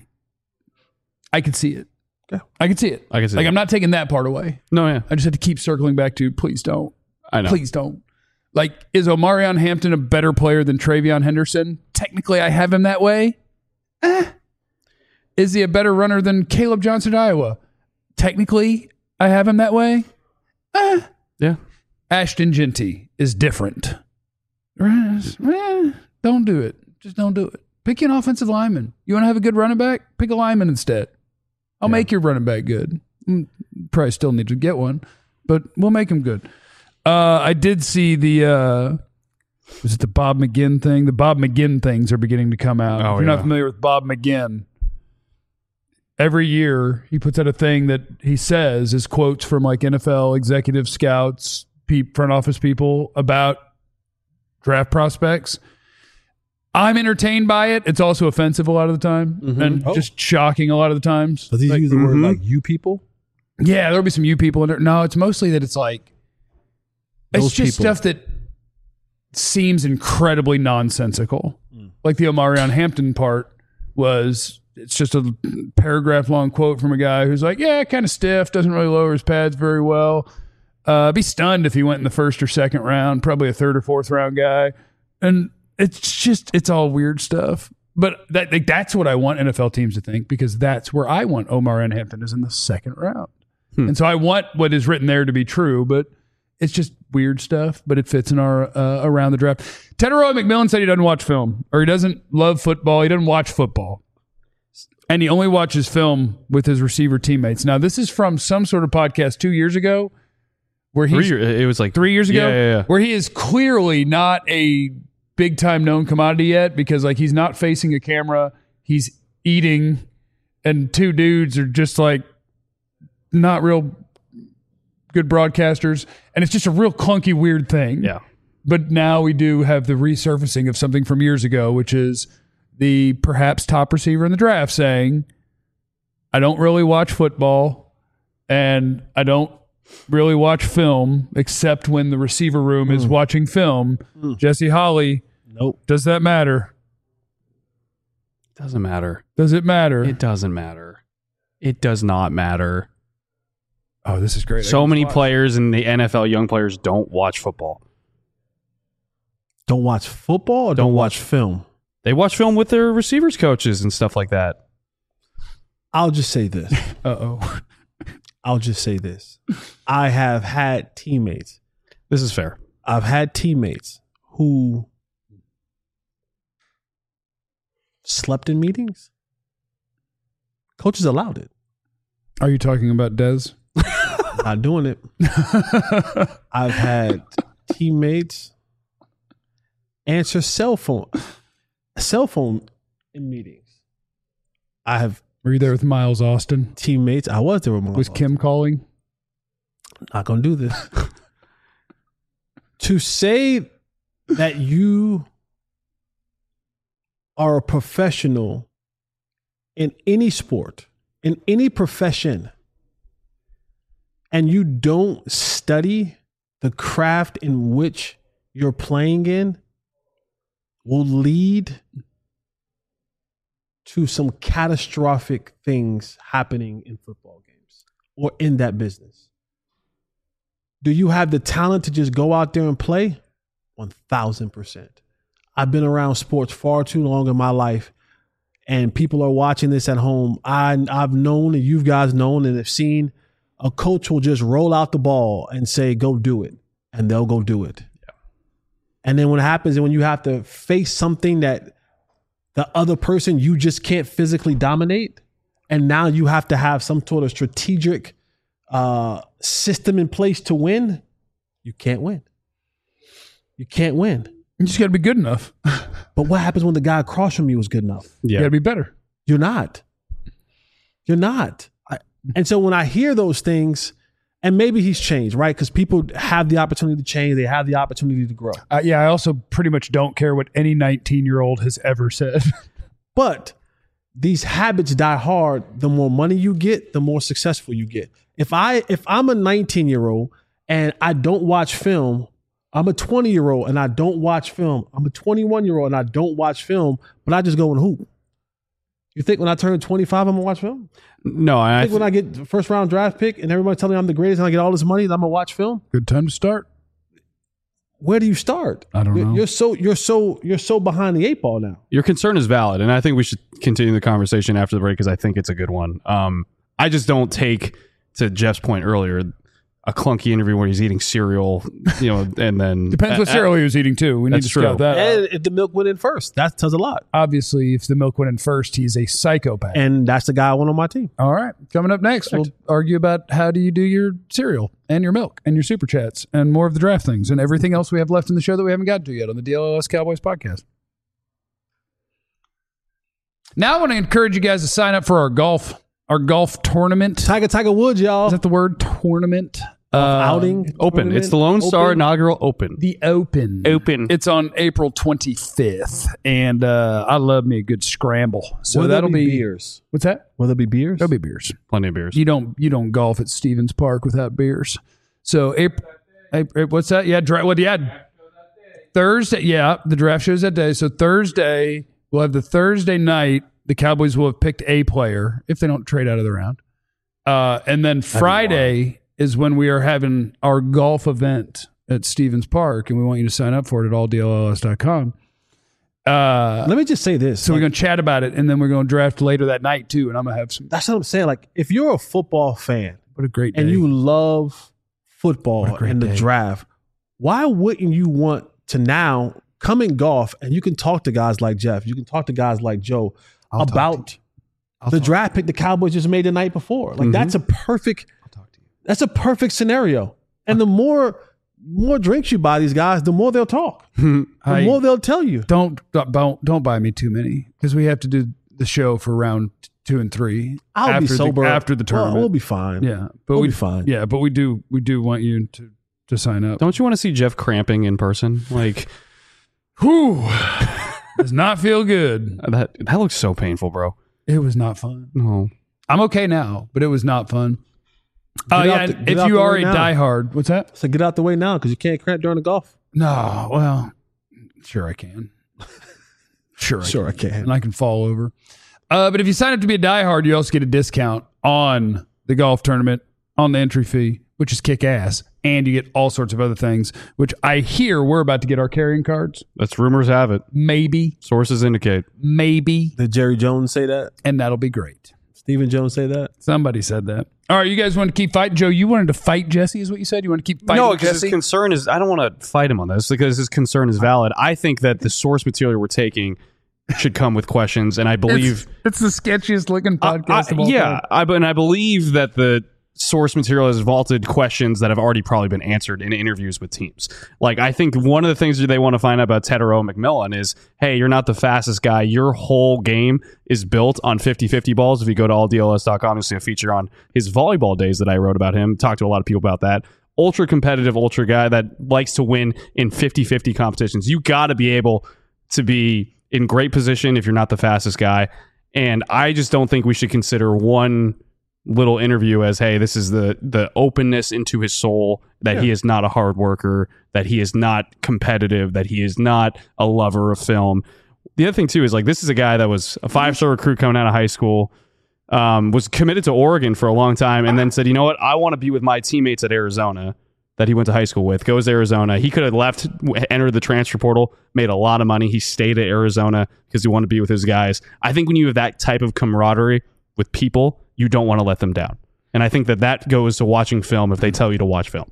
I could see it. Okay. I can see it. I can see like it. I'm not taking that part away. No, yeah. I just had to keep circling back to please don't. I know. Please don't. Like, is Omarion Hampton a better player than Travion Henderson? Technically, I have him that way. Eh. Is he a better runner than Caleb Johnson, Iowa? Technically, I have him that way. Eh. Yeah. Ashton Jeanty is different. Eh, don't do it. Just don't do it. Pick you an offensive lineman. You want to have a good running back? Pick a lineman instead. I'll make your running back good. Mm, Probably still need to get one, but we'll make him good. Uh, I did see the, uh, was it the Bob McGinn thing? The Bob McGinn things are beginning to come out. Oh, if you're yeah. not familiar with Bob McGinn, every year he puts out a thing that he says is quotes from like N F L executive scouts, pe- front office people about draft prospects. I'm entertained by it. It's also offensive a lot of the time and Oh. just shocking a lot of the times. Does he Like, use the word like you people? yeah, there'll be some you people in there. No, it's mostly that it's like it's Those just people. stuff that seems incredibly nonsensical. Hmm. Like the Omarion Hampton part was it's just a paragraph long quote from a guy who's like, yeah, kind of stiff, doesn't really lower his pads very well. Uh, be stunned if he went in the first or second round, probably a third or fourth round guy. And it's just, it's all weird stuff. But that like, that's what I want N F L teams to think, because that's where I want Omarion Hampton is in the second round. Hmm. And so I want what is written there to be true, but it's just weird stuff, but it fits in our uh, around the draft. Teteroy McMillan said he doesn't watch film, or he doesn't love football. He doesn't watch football. And he only watches film with his receiver teammates. Now, this is from some sort of podcast two years ago where Three he's year, it was like three years ago, Yeah, yeah, yeah. where he is clearly not a big time known commodity yet, because like he's not facing a camera, he's eating, and two dudes are just like not real good broadcasters, and it's just a real clunky, weird thing. Yeah. But now we do have the resurfacing of something from years ago, which is the perhaps top receiver in the draft saying, I don't really watch football and I don't really watch film except when the receiver room is watching film. Jesse Holley, Nope. does that matter? Doesn't matter. Does it matter? It doesn't matter. It does not matter. oh, this is great. I So can many watch. players in the N F L, young players, don't watch football. Don't watch football or don't, Don't watch film? They watch film with their receivers coaches and stuff like that. I'll just say this. Uh-oh. I'll just say this. I have had teammates. This is fair. I've had teammates who slept in meetings. Coaches allowed it. Are you talking about Dez? Not doing it. I've had teammates answer cell phone cell phone in meetings. I have Were you there with Miles Austin? teammates. I was there with my Was Kim calling? Not gonna do this. To say that you are a professional in any sport, in any profession, and you don't study the craft in which you're playing in will lead to some catastrophic things happening in football games or in that business. Do you have the talent to just go out there and play? one thousand percent. I've been around sports far too long in my life, and people are watching this at home. I, I've known, and you guys known and have seen, a coach will just roll out the ball and say, go do it. And they'll go do it. Yeah. And then what happens is when you have to face something that the other person you just can't physically dominate, and now you have to have some sort of strategic uh, system in place to win, you can't win. You can't win. You just got to be good enough. But what happens when the guy across from you is good enough? You Yeah. got to be better. You're not. You're not. I, and so when I hear those things, and maybe he's changed, right? Because people have the opportunity to change. They have the opportunity to grow. Uh, yeah, I also pretty much don't care what any nineteen-year-old has ever said. But these habits die hard. The more money you get, the more successful you get. If I if I'm a nineteen-year-old and I don't watch film, I'm a twenty-year-old and I don't watch film. I'm a twenty-one-year-old and I don't watch film, but I just go and hoop. You think when I turn twenty-five, I'm gonna watch film? No, You I think when I get the first round draft pick and everybody telling me I'm the greatest and I get all this money, that I'm gonna watch film? Good time to start. Where do you start? I don't you're, know. You're so you're so you're so behind the eight ball now. your concern is valid, and I think we should continue the conversation after the break because I think it's a good one. Um, I just don't take, to Jeff's point earlier, a clunky interview where he's eating cereal, you know, and then Depends what uh, cereal he was eating too. We need That's to scout true. that out. And if the milk went in first, that tells a lot. Obviously, if the milk went in first, he's a psychopath. And that's the guy I want on my team. All right. Coming up next, we'll argue about how do you do your cereal and your milk and your super chats and more of the draft things and everything else we have left in the show that we haven't gotten to yet on the D L L S Cowboys podcast. Now I want to encourage you guys to sign up for our golf, our golf tournament. Tiger Tiger Woods, y'all. Is that the word tournament? Uh, outing Open. tournament? It's the Lone Star Open? inaugural Open. The Open. Open. It's on April twenty-fifth, and uh, I love me a good scramble. So Will there that'll be be beers. What's that? Will there be beers? There'll be beers. Plenty of beers. You don't you don't golf at Stevens Park without beers. So April, April what's that? Yeah, dra- what? Yeah, Thursday. Yeah, the draft shows that day. So Thursday we'll have the Thursday night. The Cowboys will have picked a player if they don't trade out of the round, uh, and then Friday is when we are having our golf event at Stevens Park, and we want you to sign up for it at all D L L S dot com. Uh, Let me just say this. so like, we're going to chat about it, and then we're going to draft later that night, too, and I'm going to have some. that's what I'm saying. Like, if you're a football fan What a great day. and you love football What a great and the day. draft, why wouldn't you want to now come in golf and you can talk to guys like Jeff, you can talk to guys like Joe I'll talk about to you. I'll the talk- draft pick the Cowboys just made the night before. Like, that's a perfect that's a perfect scenario. And the more more drinks you buy these guys, the more they'll talk. The I- more they'll tell you. Don't don't don't buy me too many because we have to do the show for round two and three. I'll after be sober the, after the Well, tournament. we'll be fine. yeah, but we'll we be fine. Yeah, but we do we do want you to to sign up. Don't you want to see Jeff cramping in person? Like Whew, does not feel good. that. That looks so painful, bro. It was not fun. No. I'm okay now, but it was not fun. Oh Get yeah, out the- and get if out you the are way a now. diehard, what's that? So get out the way now because you can't cramp during the golf. No, well, sure I can. Sure, I Sure, can. I can. and I can fall over. Uh, but if you sign up to be a diehard, you also get a discount on the golf tournament on the entry fee, which is kick ass, and you get all sorts of other things. Which I hear we're about to get our carrying cards. That's rumors have it. Maybe, Sources indicate. maybe, Did Jerry Jones say that? and that'll be great. Stephen Jones say that? Somebody said that. All right, you guys want to keep fighting, Joe? You wanted to fight Jesse, is what you said. You want to keep fighting No, because Jesse? his concern is I don't want to fight him on this because his concern is valid. I think that the source material we're taking should come with questions, and I believe it's, it's the sketchiest looking podcast I- of all yeah, time. I, and I believe that the source material has vaulted questions that have already probably been answered in interviews with teams. Like, I think one of the things that they want to find out about Tetero McMillan is, hey, you're not the fastest guy. Your whole game is built on fifty-fifty balls. If you go to all D L S dot com, you'll see a feature on his volleyball days that I wrote about him. Talked to a lot of people about that. Ultra competitive, ultra guy that likes to win in fifty-fifty competitions. You got to be able to be in great position if you're not the fastest guy. And I just don't think we should consider one little interview as, hey, this is the the openness into his soul, that he is not a hard worker, that he is not competitive, that he is not a lover of film. The other thing too is, like, this is a guy that was a five-star recruit coming out of high school, um, was committed to Oregon for a long time, and then said, you know what, I want to be with my teammates at Arizona that he went to high school with. Goes to Arizona. He could have left, entered the transfer portal, made a lot of money. He stayed at Arizona because he wanted to be with his guys. I think when you have that type of camaraderie with people, you don't want to let them down. And I think that that goes to watching film if they tell you to watch film.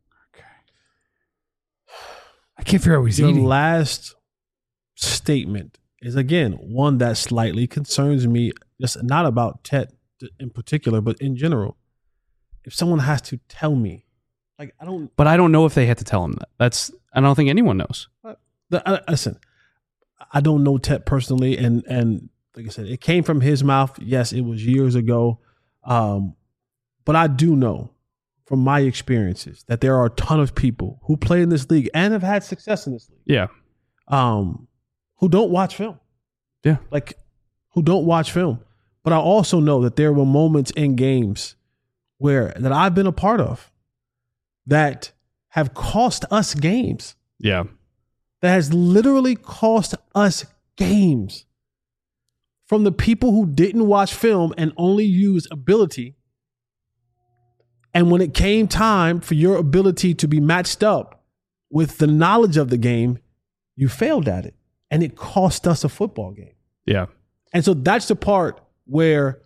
I can't figure out what he's Your eating. last statement is, again, one that slightly concerns me, just not about Tet in particular, but in general. If someone has to tell me, like, I don't, But I don't know if they had to tell him that. That's I don't think anyone knows. the, uh, listen, I don't know Tet personally, and and like I said, it came from his mouth. Yes, it was years ago, um, but I do know from my experiences that there are a ton of people who play in this league and have had success in this league, Yeah. um, who don't watch film. Yeah. Like, who don't watch film. But I also know that there were moments in games where that I've been a part of that have cost us games. Yeah. That has literally cost us games from the people who didn't watch film and only use ability. And when it came time for your ability to be matched up with the knowledge of the game, you failed at it. And it cost us a football game. Yeah. And so that's the part where,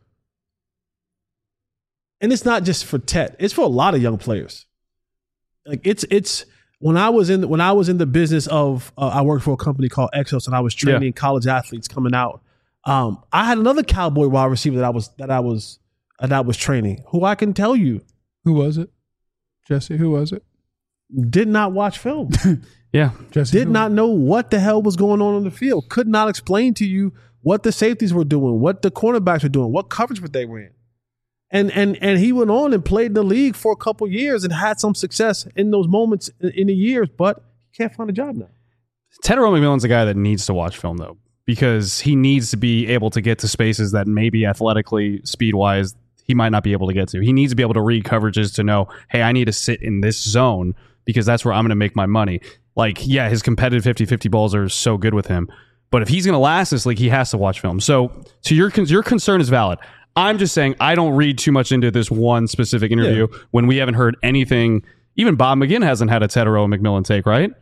and it's not just for Tet, it's for a lot of young players. Like, it's, it's, when I was in, when I was in the business of, uh, I worked for a company called Exos, and I was training Yeah. college athletes coming out. Um, I had another Cowboy wide receiver that I was, that I was, that I was training, who I can tell you Who was it? Jesse, who was it? did not watch film, Yeah. Jesse did who- not know what the hell was going on on the field, could not explain to you what the safeties were doing, what the cornerbacks were doing, what coverage they were in. And and and he went on and played in the league for a couple years and had some success in those moments in, in the years, but he can't find a job now. Tetairoa McMillan's a guy that needs to watch film, though, because he needs to be able to get to spaces that maybe athletically, speed-wise, he might not be able to get to. He needs to be able to read coverages to know, hey, I need to sit in this zone because that's where I'm going to make my money. Like, yeah, his competitive fifty-fifty balls are so good with him, but if he's going to last this league, he has to watch film. So, so your your concern is valid. I'm just saying I don't read too much into this one specific interview yeah. when we haven't heard anything. Even Bob McGinn hasn't had a Tetairoa McMillan take, right?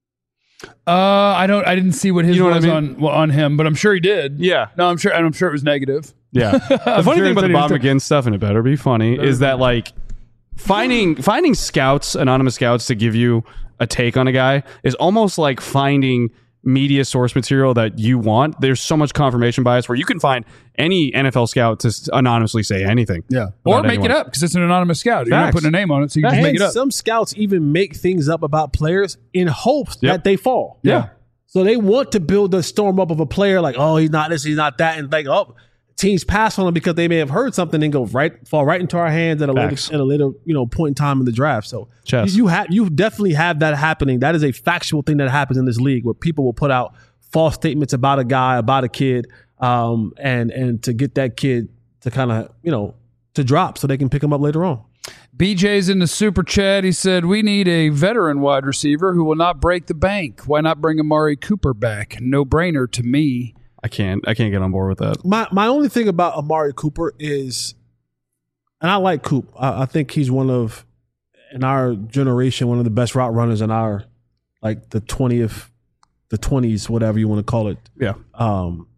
Uh, I don't. I didn't see what his You know was what I mean? on well, on him, but I'm sure he did. Yeah. No, I'm sure, and I'm sure it was negative. Yeah. The funny sure thing about the it's Bob any- McGinn stuff, and it better be funny, is that like finding finding scouts, anonymous scouts, to give you a take on a guy is almost like finding media source material that you want. There's so much confirmation bias where you can find any N F L scout to s- anonymously say anything. Yeah, or about make anyone. it up because it's an anonymous scout. You're not Facts. putting a name on it, so you can just And make it up. some scouts even make things up about players in hopes Yep. that they fall. Yeah. So they want to build a storm up of a player like, oh, he's not this, he's not that, and like, oh, teams pass on him because they may have heard something and go right, fall right into our hands at a Facts. later, at a later, you know, point in time in the draft. So Chess. you, you have, you definitely have that happening. That is a factual thing that happens in this league where people will put out false statements about a guy, about a kid, um, and and to get that kid to kind of, you know, to drop so they can pick him up later on. B J's in the super chat. He said, we need a veteran wide receiver who will not break the bank. Why not bring Amari Cooper back? No brainer to me. I can't I can't get on board with that. My my only thing about Amari Cooper is, and I like Coop. I, I think he's one of, in our generation, one of the best route runners in our, like the twentieth, the twenties, whatever you want to call it. Yeah. Um,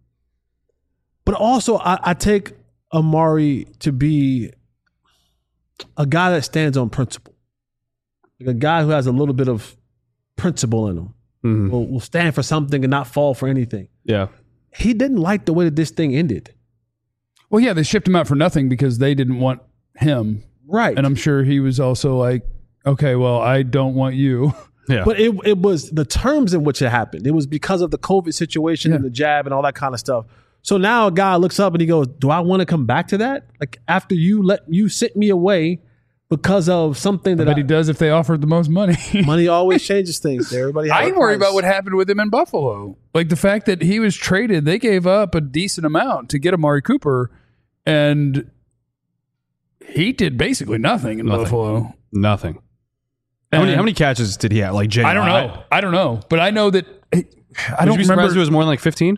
but also, I, I take Amari to be a guy that stands on principle, like a guy who has a little bit of principle in him. Mhm. Will, will stand for something and not fall for anything. Yeah. He didn't like the way that this thing ended. Well, yeah, they shipped him out for nothing because they didn't want him. Right. And I'm sure he was also like, okay, well, I don't want you. Yeah. But it it was the terms in which it happened. It was because of the COVID situation Yeah. and the jab and all that kind of stuff. So now a guy looks up and he goes, do I want to come back to that? Like after you let you sent me away because of something that But I, he does if they offered the most money. money always changes things. Everybody has I a ain't worried price. about what happened with him in Buffalo. Like the fact that he was traded, they gave up a decent amount to get Amari Cooper, and he did basically nothing in Nothing. Buffalo. Nothing. How many And- how many catches did he have? Like I don't know. I don't know. But I know that I Would don't you be surprised remember. if it was more than like fifteen?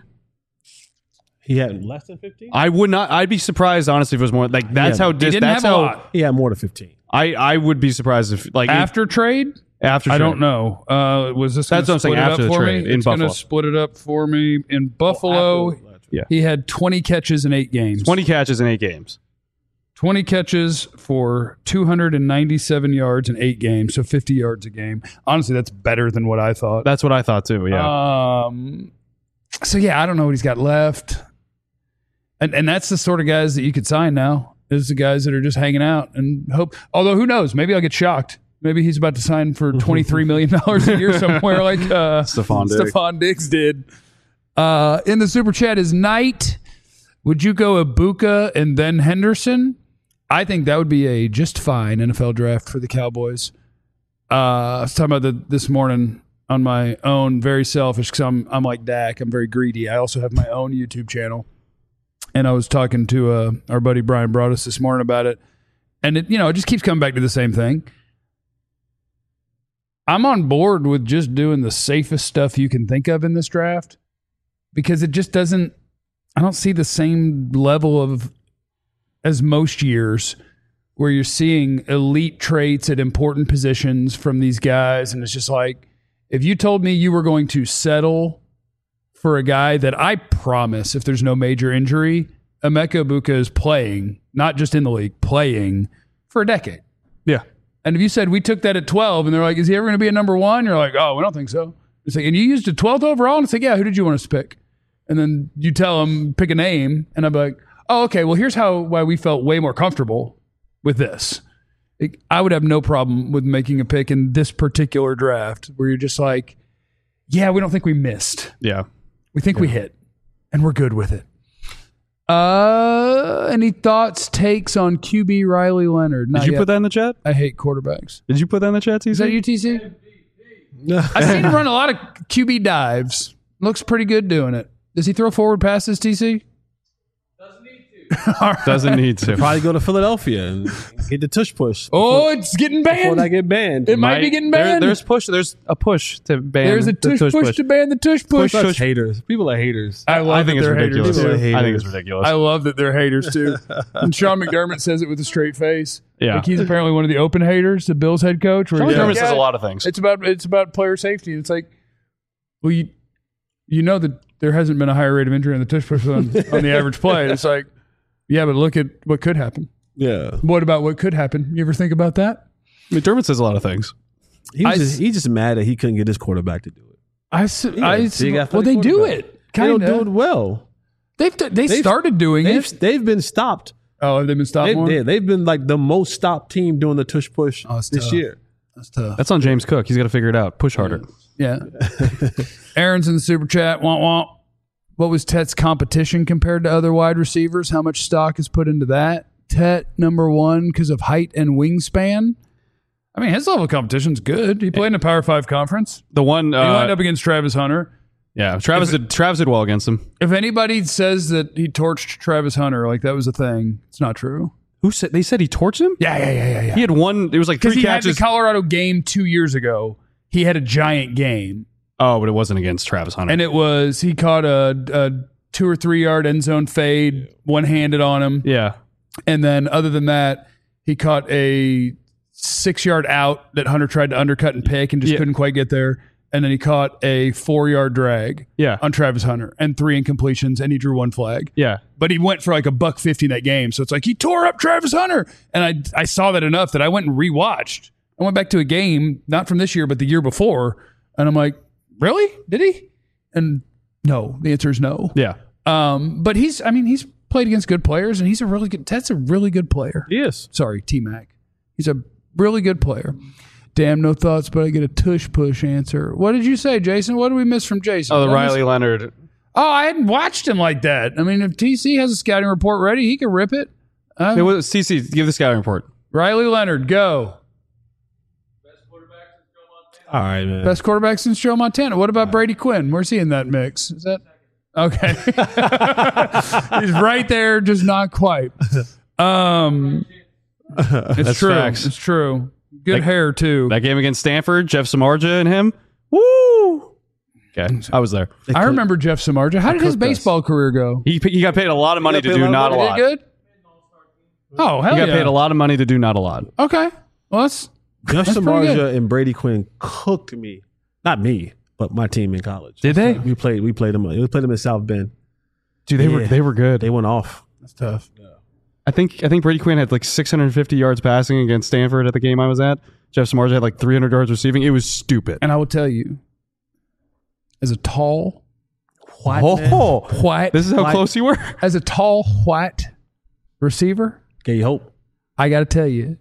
He had less than fifteen? I would not. I'd be surprised honestly if it was more. Like that's Yeah, how. he Dis, didn't that's have a how. lot. He had more than fifteen. I I would be surprised if like After trade? after. I trade. don't know. Uh, was this That's gonna what I'm saying, split it after up the for trade me? in It's gonna Buffalo. split it up for me in Buffalo. Yeah. He had twenty catches in eight games. twenty catches in eight games. twenty catches for two hundred ninety-seven yards in eight games, so fifty yards a game. Honestly, that's better than what I thought. That's what I thought too. Yeah. Um, so yeah, I don't know what he's got left, and and that's the sort of guys that you could sign now. Is the guys that are just hanging out and hope. Although who knows? Maybe I'll get shocked. Maybe he's about to sign for twenty-three million dollars a year somewhere, like uh, Stephon Diggs. Stephon Diggs did. Uh, in the super chat is Knight. Would you go Ibuka and then Henderson? I think that would be a just fine N F L draft for the Cowboys. Uh, I was talking about the, this morning on my own, very selfish because I'm I'm like Dak. I'm very greedy. I also have my own YouTube channel, and I was talking to uh, our buddy Brian Broaddus this morning about it, and it you know it just keeps coming back to the same thing. I'm on board with just doing the safest stuff you can think of in this draft because it just doesn't. I don't see the same level of as most years where you're seeing elite traits at important positions from these guys. And it's just like, if you told me you were going to settle for a guy that I promise, if there's no major injury, Emeka Ibuka is playing, not just in the league, playing for a decade. Yeah. And if you said we took that at twelve and they're like, is he ever going to be a number one? You're like, oh, we don't think so. It's like, and you used a twelfth overall? And it's like, yeah, who did you want us to pick? And then you tell them, pick a name. And I'm like, oh, okay, well, here's how why we felt way more comfortable with this. It, I would have no problem with making a pick in this particular draft where you're just like, yeah, we don't think we missed. Yeah. We think we hit, and we're good with it. Uh, any thoughts, takes on Q B Riley Leonard? Not Did you yet. put that in the chat? I hate quarterbacks. Did you put that in the chat, T C? Is that you, T C? I've seen him run a lot of Q B dives. Looks pretty good doing it. Does he throw forward passes, T C? Doesn't need to. Probably go to Philadelphia and get the tush push. Oh, it's getting Before banned. I get banned. It might be getting There- banned. there's push. There's a push to ban. There's a the tush, push, to ban the tush push. That's haters. People are haters. I love I think that it's they're ridiculous. haters too. People are I think it's haters. ridiculous. I love that they're haters too. And Sean McDermott says it with a straight face. Yeah. Like he's apparently one of the open haters, the Bills head coach. Where Sean he's McDermott like, says "Yeah, a lot of things. It's about it's about player safety. It's like, well, you you know that there hasn't been a higher rate of injury on the tush push on, on the average play. It's like, yeah, but look at what could happen. Yeah. What about what could happen? You ever think about that? McDermott says a lot of things. He's I- just, he's just mad that he couldn't get his quarterback to do it. I, s- Yeah, I big athletic well, they do quarterback. it. They don't Kinda. do it well. They've they They've- started doing They've, it. they've been stopped. Oh, have they been stopped They, more? yeah, they've been like the most stopped team doing the tush push Oh, it's this tough. year. That's tough. That's on James Cook. He's got to figure it out. Push harder. Yeah. Aaron's in the super chat. Womp womp. What was Tet's competition compared to other wide receivers? How much stock is put into that? Tet number one because of height and wingspan. I mean, his level of competition's good. He played in a Power Five conference. The one, He lined uh, up against Travis Hunter. yeah, Travis did, Travis did well against him. If anybody says that he torched Travis Hunter, like that was a thing, it's not true. Who said they said he torched him? Yeah, yeah, yeah, yeah, yeah. He had one. It was like Because three he had catches. the Colorado game two years ago. He had a giant game. oh, but it wasn't against Travis Hunter. And it was, he caught a, a two or three yard end zone fade, one handed on him. yeah, And then other than that, he caught a six yard out that Hunter tried to undercut and pick and just Yeah. couldn't quite get there. And then he caught a four yard drag yeah, on Travis Hunter and three incompletions, and he drew one flag. yeah. But he went for like a buck fifty in that game. So it's like he tore up Travis Hunter. And I I saw that enough that I went and rewatched. I went back to a game, not from this year, but the year before. And I'm like, really? Did he? And no, the answer is no. Yeah. Um, but he's, I mean, he's played against good players, and he's a really good, Ted's a really good player. Yes. Sorry, T-Mac. He's a really good player. Damn, no thoughts, but I get a tush push answer. What did you say, Jason? What did we miss from Jason? Oh, the Did I miss- Riley Leonard. Oh, I hadn't watched him like that. I mean, if T C has a scouting report ready, he can rip it. Uh, It was C C. Give the scouting report. Riley Leonard, go. All right, man. Best quarterback since Joe Montana. What about Brady Quinn? Where's he in that mix? Is that okay? He's right there, just not quite. Um, it's That's true. facts. It's true. Good That- hair too. That game against Stanford, Jeff Samardzija and him. Woo! Okay, I was there. I remember Jeff Samardzija. How did his cooked us. baseball career go? He he got paid a lot of money He to got paid do a lot not a of lot. Did he good? Oh, hell He got yeah. paid a lot of money to do not a lot. Okay. Well, that's Jeff That's pretty good. Samardzija and Brady Quinn cooked me. Not me, but my team in college. Did they? We played. We played them. We played them in South Bend. Dude, they were Yeah. they were good. They went off. that's tough. I think I think Brady Quinn had like six hundred fifty yards passing against Stanford at the game I was at. Jeff Samardzija had like three hundred yards receiving. It was stupid. And I will tell you, as a tall, white, Oh, white, this is how white- close you were. as a tall white receiver, Gave you hope. I got to tell you,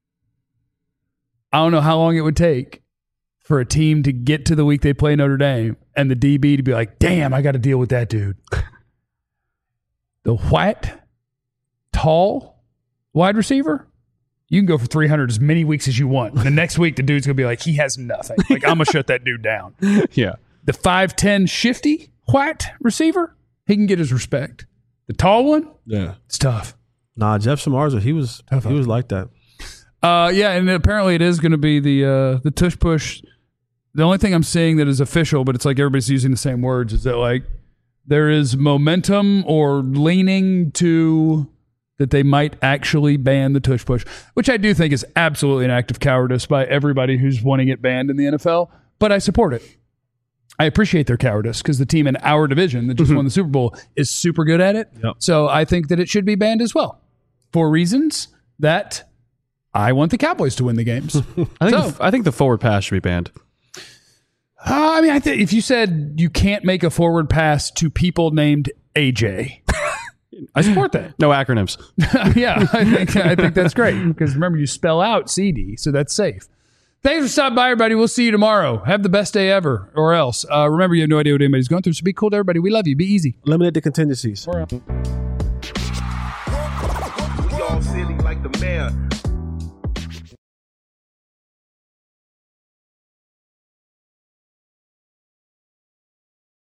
I don't know how long it would take for a team to get to the week they play Notre Dame and the D B to be like, damn, I got to deal with that dude. The white, tall wide receiver, you can go for three hundred as many weeks as you want. The next week, the dude's going to be like, he has nothing. Like, I'm going to shut that dude down. Yeah. The five ten shifty white receiver, he can get his respect. The tall one, Yeah. it's tough. Nah, Jeff Samardzija. He was. Tough he was like that. Uh, yeah, and apparently it is going to be the uh, the tush push. The only thing I'm seeing that is official, but it's like everybody's using the same words, is that like there is momentum or leaning to that they might actually ban the tush push, which I do think is absolutely an act of cowardice by everybody who's wanting it banned in the N F L. But I support it. I appreciate their cowardice because the team in our division that just won the Super Bowl is super good at it. Yep. So I think that it should be banned as well for reasons that I want the Cowboys to win the games. I think So- the, I think the forward pass should be banned. Uh, I mean, I think if you said you can't make a forward pass to people named A J, I support that. No acronyms. Yeah, I think I think that's great because remember you spell out C D, so that's safe. Thanks for stopping by, everybody. We'll see you tomorrow. Have the best day ever, or else. Uh, remember, you have no idea what anybody's going through, so be cool to everybody. We love you. Be easy. Eliminate the contingencies. We're out. all silly like the mayor.